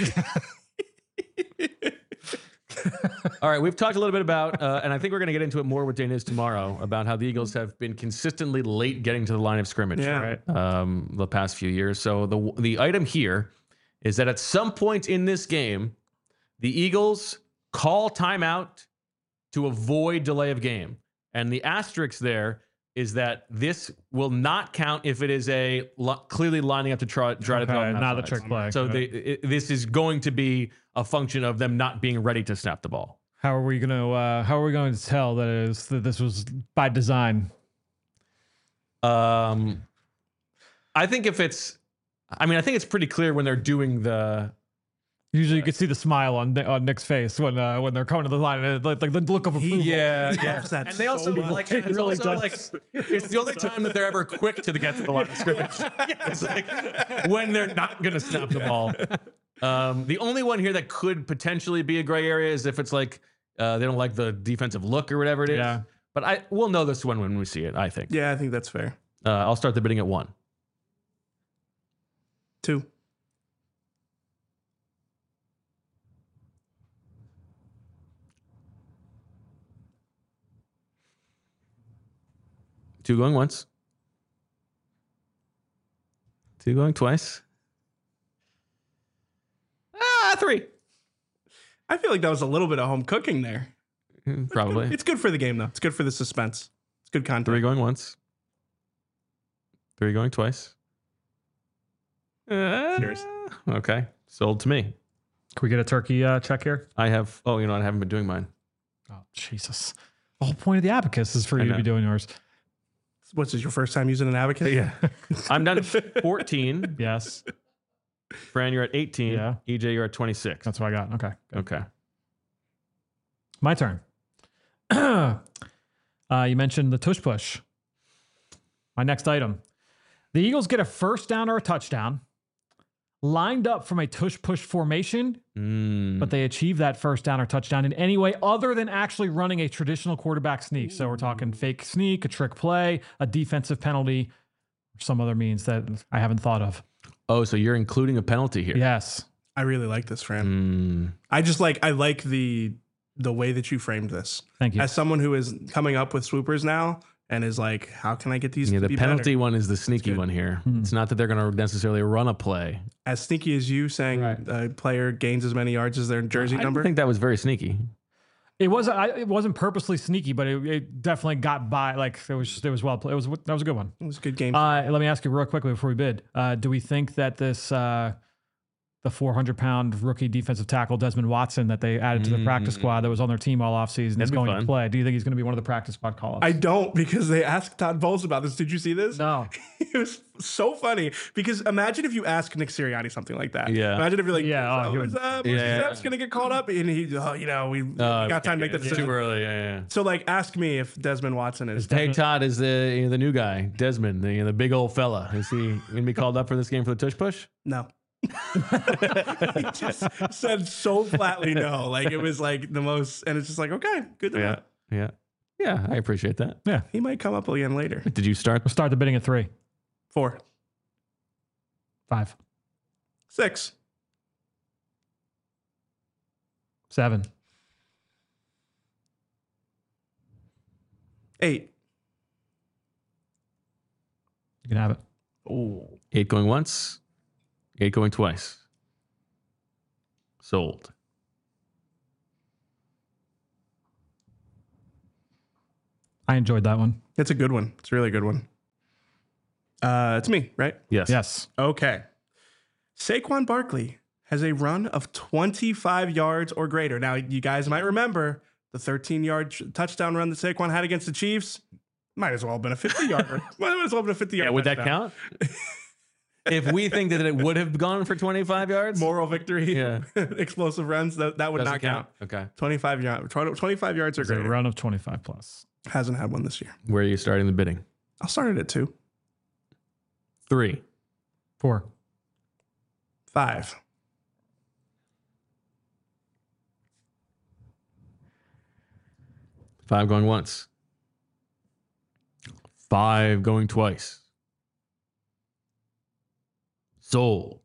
All right, we've talked a little bit about, and I think we're going to get into it more with Daniz tomorrow, about how the Eagles have been consistently late getting to the line of scrimmage Yeah. the past few years. So the item here is that at some point in this game, the Eagles call timeout to avoid delay of game. And the asterisk there is that this will not count if it is clearly lining up to try to Okay, throw them not the outside. trick play. So this is going to be a function of them not being ready to snap the ball. How are we going to tell that this was by design? I think it's pretty clear when they're doing the Usually, you can see the smile on Nick's face when they're coming to the line, and like the look of approval. Yeah. That And they also so like much. it's also like it's the only time that they're ever quick to get to the line of scrimmage. It's like when they're not gonna snap the ball. The only one here that could potentially be a gray area is if it's like they don't like the defensive look or whatever it is. Yeah. But we'll know this one when we see it, I think. Yeah, I think that's fair. I'll start the bidding at 1. 2. Two going once. 2 going twice. 3. I feel like that was a little bit of home cooking there. Probably. It's good for the game, though. It's good for the suspense. It's good content. 3 going once. 3 going twice. Cheers. Okay. Sold to me. Can we get a turkey check here? I have, I haven't been doing mine. Oh, Jesus. The whole point of the abacus is for you to know. be doing yours. What's this, your first time using an abacus? Yeah. I'm done at 14. Yes. Fran, you're at 18. Yeah. EJ, you're at 26. That's what I got. Okay. Good. Okay. My turn. You mentioned the tush push. My next item. The Eagles get a first down or a touchdown, lined up from a tush push formation, but they achieve that first down or touchdown in any way other than actually running a traditional quarterback sneak. So we're talking fake sneak, a trick play, a defensive penalty, or some other means that I haven't thought of. Oh, so you're including a penalty here. Yes. I really like this, Fran. I like the way that you framed this. Thank you. As someone who is coming up with swoopers now and is like, how can I get these Yeah, to the be penalty better? one is the sneaky one here. It's not that they're going to necessarily run a play. As sneaky as you saying a player gains as many yards as their jersey I number? think that was very sneaky. It wasn't purposely sneaky, but it definitely got by. Like it was well played. That was a good one. It was a good game. Let me ask you real quickly before we bid. Do we think that this the 400-pound rookie defensive tackle Desmond Watson that they added to the practice squad that was on their team all offseason is That'd be going to fun. play? Do you think he's going to be one of the practice squad call-ups? I don't, because they asked Todd Bowles about this. Did you see this? No. It was so funny because imagine if you ask Nick Sirianni something like that. Yeah. Imagine if you're like, Yeah, he would- Steph's going to get called up. And he, we got time to make that It's decision. too early. Yeah. So, like, ask me if Desmond Watson is. Hey, Todd is the new guy, Desmond, the big old fella. Is he going to be called up for this game for the tush push? No. He just said so flatly no. Like, it was like the most, and it's just like, okay, good to know. Yeah. I appreciate that. Yeah. He might come up again later. Did you start? We'll start the bidding at 3, 4, 5, 6, 7, 8. You can have it. Oh, 8 going once, 8 going twice. Sold. I enjoyed that one. it's a good one. It's a really good one. It's me, right? Yes. Yes. Okay. Saquon Barkley has a run of 25 yards or greater. Now, you guys might remember the 13-yard touchdown run that Saquon had against the Chiefs. Might as well have been a 50-yarder. Might as well have been a 50-yard. Yeah, would that touchdown. count? If we think that it would have gone for 25 yards? Moral victory, Yeah. explosive runs, that would Doesn't not count. Okay. 25 yards or It's a greater. run of 25 plus. Hasn't had one this year. Where are you starting the bidding? I'll start it at 2, 3, 4, 5, 5 going once, 5 going twice. Sold.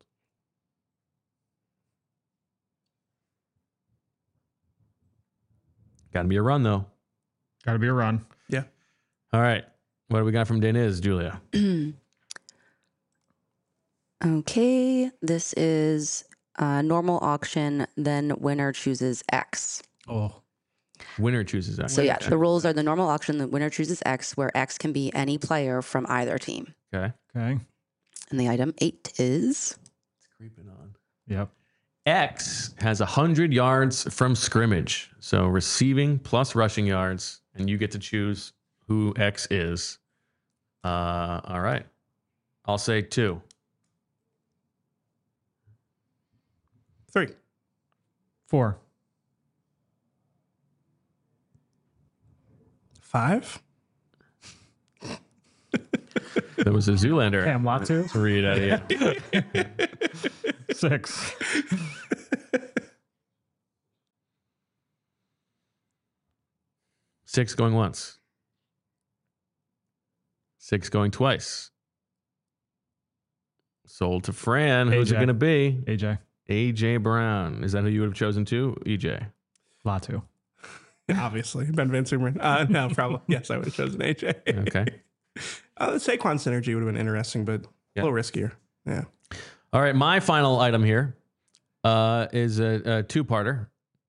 Got to be a run, though. Got to be a run. Yeah. All right. What do we got from Deniz, Julia? Okay, this is normal auction, then winner chooses X. Oh. Winner chooses that. So yeah, the rules are the normal auction, the winner chooses X, where X can be any player from either team. Okay. Okay. And the item 8 is It's creeping on. Yep. X has 100 yards from scrimmage. So receiving plus rushing yards, and you get to choose who X is. All right. I'll say 2. 3. 4. 5. There was a Zoolander. Cam Latu. Read out of you. 6. Six going once. 6 going twice. Sold to Fran. Who's it AJ. going to be? AJ. AJ Brown. Is that who you would have chosen too? EJ. Latu. Obviously, Ben Van Sumeren. No, probably. Yes, I would have chosen AJ. Okay. The Saquon synergy would have been interesting, but Yeah. a little riskier. Yeah. All right. My final item here is a two-parter.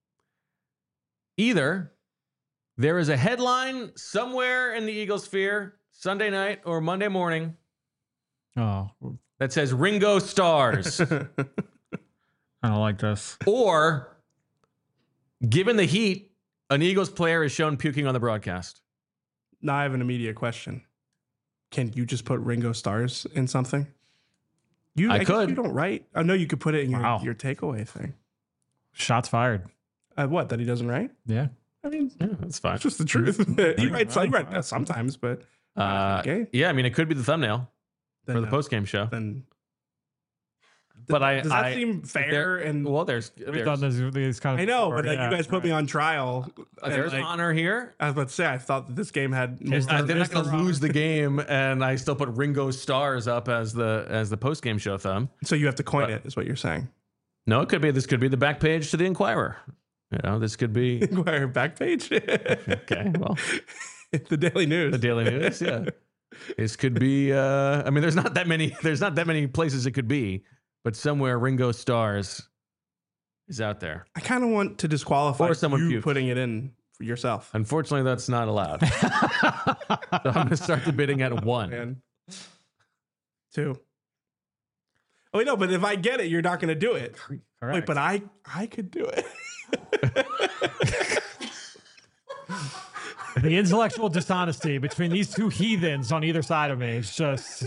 Either there is a headline somewhere in the Eagles sphere Sunday night or Monday morning Oh, that says Ringo Stars. I don't like this. Or, given the heat, an Eagles player is shown puking on the broadcast. Now I have an immediate question. Can you just put Ringo Stars in something? I guess could. You don't write. I know you could put it in Wow. your takeaway thing. Shots fired. What? That he doesn't write? Yeah. I mean, Yeah, that's fine. it's just the truth. he writes sometimes, but okay. Yeah, I mean, it could be the thumbnail Then for the no. post-game show. Then But does that seem fair? there- And well, there's We've done these kind of. I know, but before, like, you guys put me on trial. and, there's like, honor here. I was about to say, I thought that this game had more. Is there- They're not Mr. going to Robert. lose the game, and I still put Ringo Stars up as the post-game show thumb. So you have to coin it, is what you're saying. No, this could be the back page to the Inquirer. You know, this could be Inquirer back page. okay. Well, The Daily News. the Daily News, yeah. This could be. I mean, there's not that many places it could be, but somewhere Ringo Stars is out there. I kind of want to disqualify Or someone you puked. putting it in for yourself. Unfortunately, that's not allowed. So I'm going to start the bidding at 1. Man. 2. Oh, wait, no, but if I get it, you're not going to do it. Correct. Wait, but I could do it. The intellectual dishonesty between these two heathens on either side of me is just.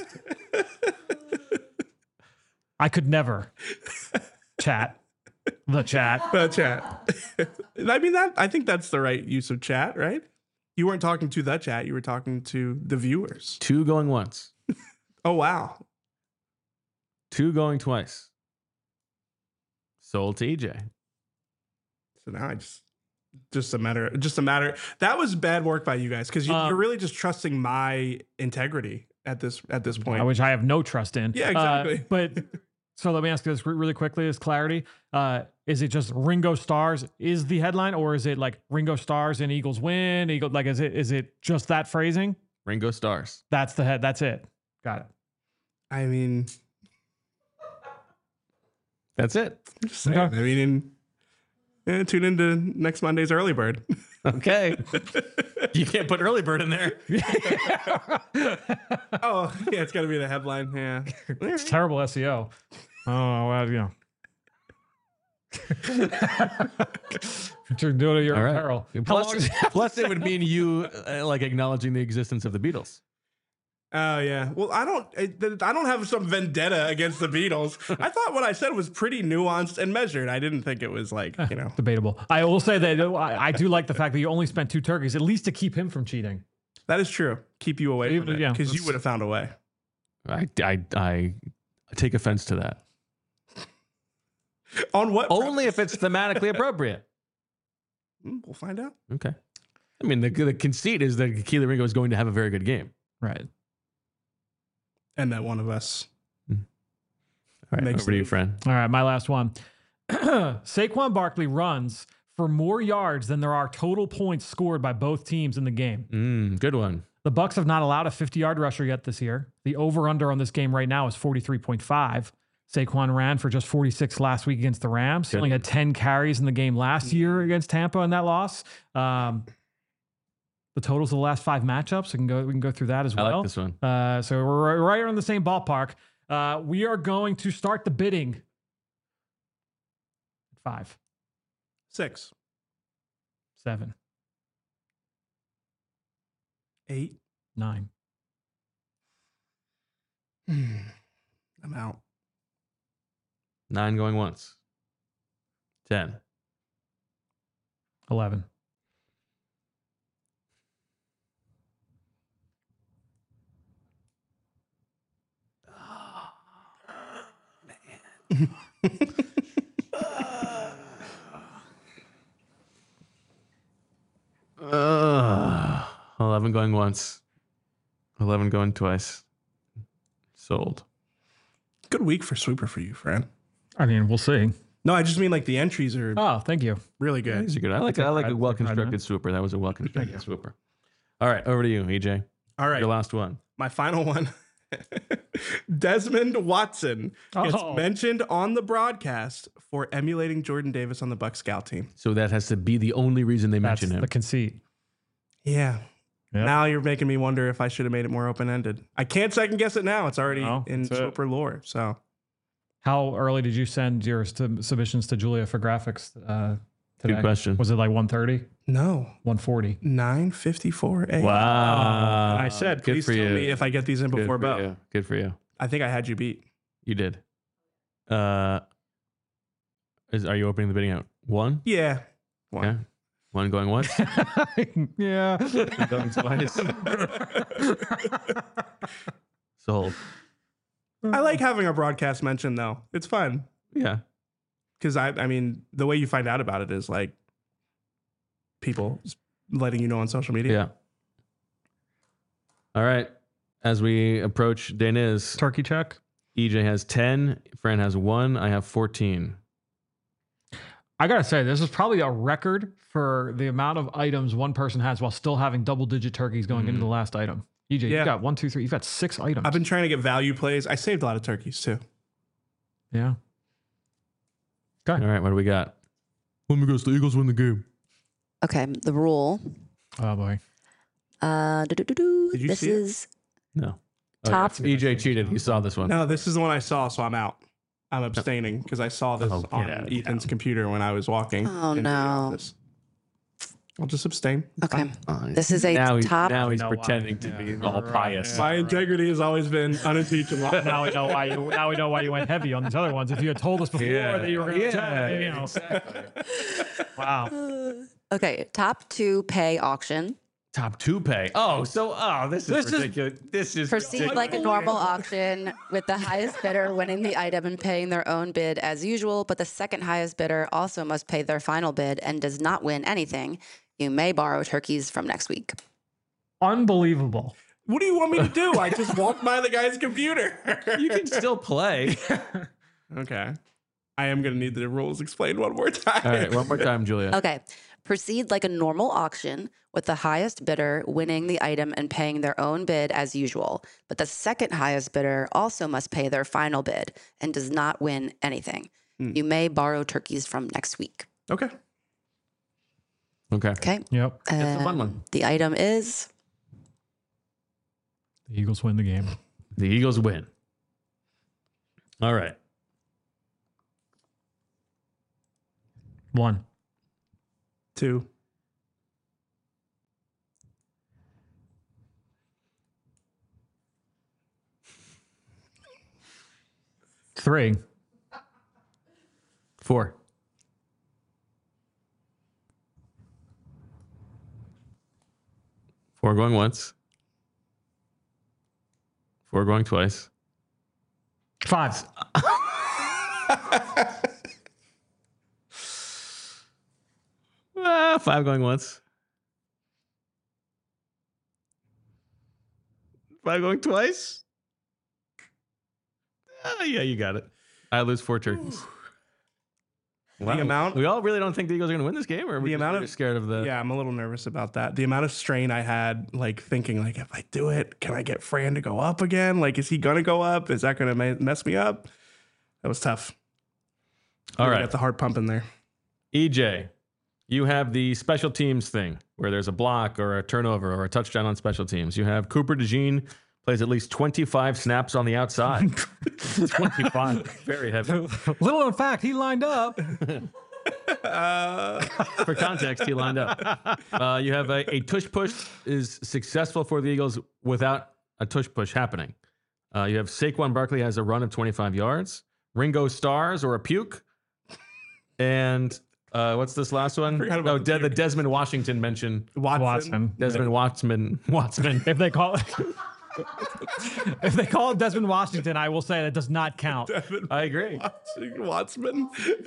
I could never chat. The chat. Chat. I mean, I think that's the right use of chat, right? You weren't talking to the chat. You were talking to the viewers. 2 going once. Oh, wow. 2 going twice. Sold to EJ. So now I just a matter. That was bad work by you guys because you're really just trusting my integrity at this point. Which I have no trust in. Yeah, exactly. But so let me ask you this really quickly as clarity. Is it just Ringo Stars is the headline, or is it like Ringo Stars and Eagles win? Is it just that phrasing? Ringo Stars. That's the head. That's it. Got it. I mean, That's it. I'm just saying. Okay. I mean, tune into next Monday's Early Bird. Okay. You can't put early bird in there. Oh, yeah, it's got to be the headline. Yeah. It's terrible SEO. Oh, well, you know. You're doing it at your All own right. peril. How long is- Plus, it would mean you like acknowledging the existence of the Beatles. Oh yeah. Well, I don't have some vendetta against the Beatles. I thought what I said was pretty nuanced and measured. I didn't think it was like, Debatable. I will say that I do like the fact that you only spent 2 turkeys, at least to keep him from cheating. that is true. Keep you away from it Yeah, because you that's- would have found a way. I take offense to that. On what? Only if it's thematically appropriate. We'll find out. Okay. I mean, the conceit is that Keely Ringo is going to have a very good game. Right. And that one of us. All right, Makes over to you, sense. friend. All right, my last one. Saquon Barkley runs for more yards than there are total points scored by both teams in the game. Good one. The Bucs have not allowed a 50-yard rusher yet this year. The over-under on this game right now is 43.5. Saquon ran for just 46 last week against the Rams. He only had 10 carries in the game last year against Tampa in that loss. The totals of the last 5 matchups. We can go through that as I well. like this one. So we're right around the same ballpark. We are going to start the bidding. 5, 6, 7, 8. 9. I'm out. 9 going once. 10. 11. Uh, 11 going once. 11 going twice. Sold. Good week for Swooper for you, Fran. I mean, we'll see. No, I just mean like the entries are Oh, thank you. really good. These are good. I like a well-constructed swooper. That was a well-constructed swooper. All right, over to you, EJ. All right. Your last one. My final one. Desmond Watson gets Oh. mentioned on the broadcast for emulating Jordan Davis on the Bucs scout team. So that has to be the only reason they That's mention him. the conceit. Yeah. Yep. Now you're making me wonder if I should have made it more open-ended. I can't second guess it now. It's already No, in that's it. Swooper lore. So How early did you send your submissions to Julia for graphics today? Good question. Was it like 1:30, no, 1:40? 9:54 a.m. Wow. I said, Good please for tell you. me if I get these in Good before for Bo. you. Good for you. I think I had you beat. You did. Are you opening the bidding at 1? Yeah. One. Okay. 1 going once. Yeah. Going twice. Sold. I like having a broadcast mention though. It's fun. Yeah. Because I mean, the way you find out about it is like people letting you know on social media. Yeah. All right. As we approach Deniz, Turkey check. EJ has 10, Fran has 1, I have 14. I gotta say, this is probably a record for the amount of items one person has while still having double-digit turkeys going into the last item. EJ, Yeah. you got 1, 2, 3. You've got 6 items. I've been trying to get value plays. I saved a lot of turkeys too. Yeah. All right, what do we got? Let me guess, the Eagles win the game. Okay, the rule. Oh boy. Did you This see it? is No. Top- Oh, yeah. EJ cheated. He saw this one. No, this is the one I saw, so I'm out. I'm abstaining because I saw this Oh, get on out of Ethan's computer when I was walking. Oh, into the no. office. I'll just abstain. It's okay. fine. This is a Now, top. now he's know why. pretending to be all right, pious. My integrity has always been unimpeachable. Now we know why you. Now we know why you went heavy on these other ones. If you had told us before that you were going to, you know. Wow. Okay, top 2 pay auction. Top 2 pay. This is ridiculous. This is Proceed ridiculous. like a normal auction with the highest bidder winning the item and paying their own bid as usual, but the second highest bidder also must pay their final bid and does not win anything. You may borrow turkeys from next week. Unbelievable. What do you want me to do? I just walked by the guy's computer. You can still play. Okay. I am going to need the rules explained one more time. All right, one more time, Julia. Okay. Proceed like a normal auction with the highest bidder winning the item and paying their own bid as usual. But the second highest bidder also must pay their final bid and does not win anything. You may borrow turkeys from next week. Okay. Okay. Okay. Yep. That's a fun one. The item is The Eagles win the game. The Eagles win. All right. 1. 2. 3. 4. 4 going once. 4 going twice. 5. Five going once. 5 going twice. Yeah, you got it. I lose 4 turkeys. Wow. The amount- We all really don't think the Eagles are going to win this game, or are we The amount just of- scared of the? Yeah, I'm a little nervous about that. The amount of strain I had, like thinking, like if I do it, can I get Fran to go up again? Like, is he gonna go up? Is that gonna mess me up? That was tough. All Really right, got the heart pumping there. EJ, you have the special teams thing where there's a block or a turnover or a touchdown on special teams. You have Cooper DeJean plays at least 25 snaps on the outside. 25, very heavy. Little known fact, he lined up. For context, he lined up. You have a tush push is successful for the Eagles without a tush push happening. You have Saquon Barkley has a run of 25 yards. Ringo Stars or a puke. And What's this last one? forgot about the Desmond Washington mention. Watson. Desmond Watson. If they call it Desmond Washington, I will say that does not count. I agree. Watson.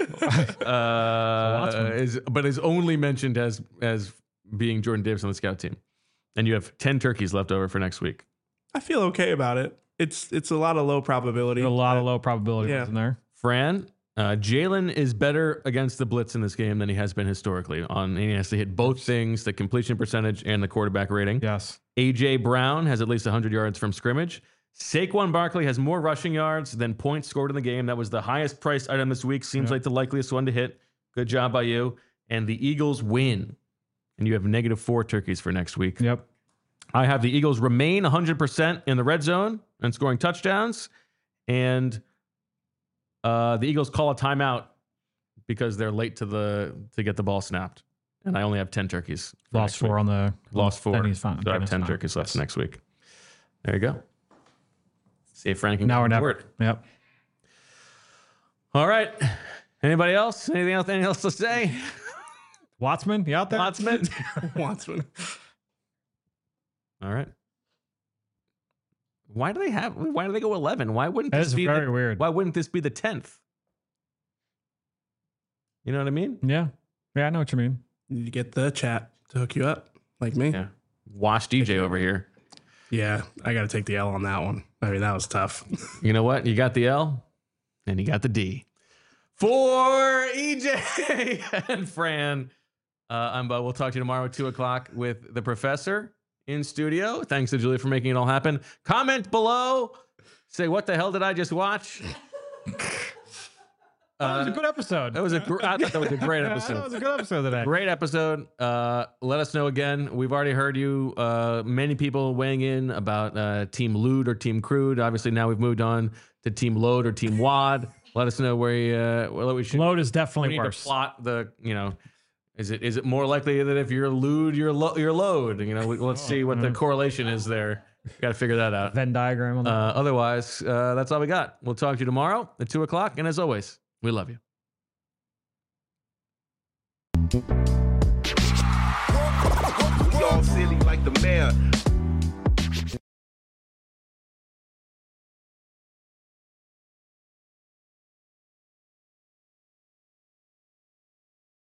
Is only mentioned as being Jordan Davis on the scout team. And you have 10 turkeys left over for next week. I feel okay about it. It's a lot of low probability. There's a lot of low probability Yeah. in there. Fran, Jalen is better against the blitz in this game than he has been historically. He has to hit both things, the completion percentage and the quarterback rating. Yes. A.J. Brown has at least 100 yards from scrimmage. Saquon Barkley has more rushing yards than points scored in the game. That was the highest priced item this week. Seems like the likeliest one to hit. Good job by you. And the Eagles win. And you have -4 turkeys for next week. Yep. I have the Eagles remain 100% in the red zone and scoring touchdowns. And the Eagles call a timeout because they're late to get the ball snapped. And I only have 10 turkeys. Lost 4 on the. Lost 4. Then he's fine. So I have Then 10 he's fine. turkeys left next week. There you go. See if Frank can Now or come never. forward. Yep. All right. Anybody else? Anything else to say? Watson, you out there? Watson? Watson. All right. Why do they go 11? Why wouldn't That this is be very weird. Why wouldn't this be the 10th? You know what I mean? Yeah. Yeah, I know what you mean. You get the chat to hook you up, like me. Yeah. Wash DJ over here. Yeah, I got to take the L on that one. I mean, that was tough. You know what? You got the L and you got the D. For EJ and Fran, I'm Bo. We'll talk to you tomorrow at 2 o'clock with the professor in studio. Thanks to Julie for making it all happen. Comment below. Say, what the hell did I just watch? That was a good episode. I thought that was a great That episode. was a good episode today. Great episode. Let us know again. We've already heard you. Many people weighing in about Team Lude or Team Crude. Obviously, now we've moved on to Team Load or Team Wad. Let us know where we should. Load is We definitely need worse. to plot the. Is it more likely that if you're Lude, you're Load? Let's see what the correlation is there. Got to figure that out. Venn diagram on that. Otherwise, that's all we got. We'll talk to you tomorrow at 2 o'clock. And as always, we love you. Y'all silly like the mayor.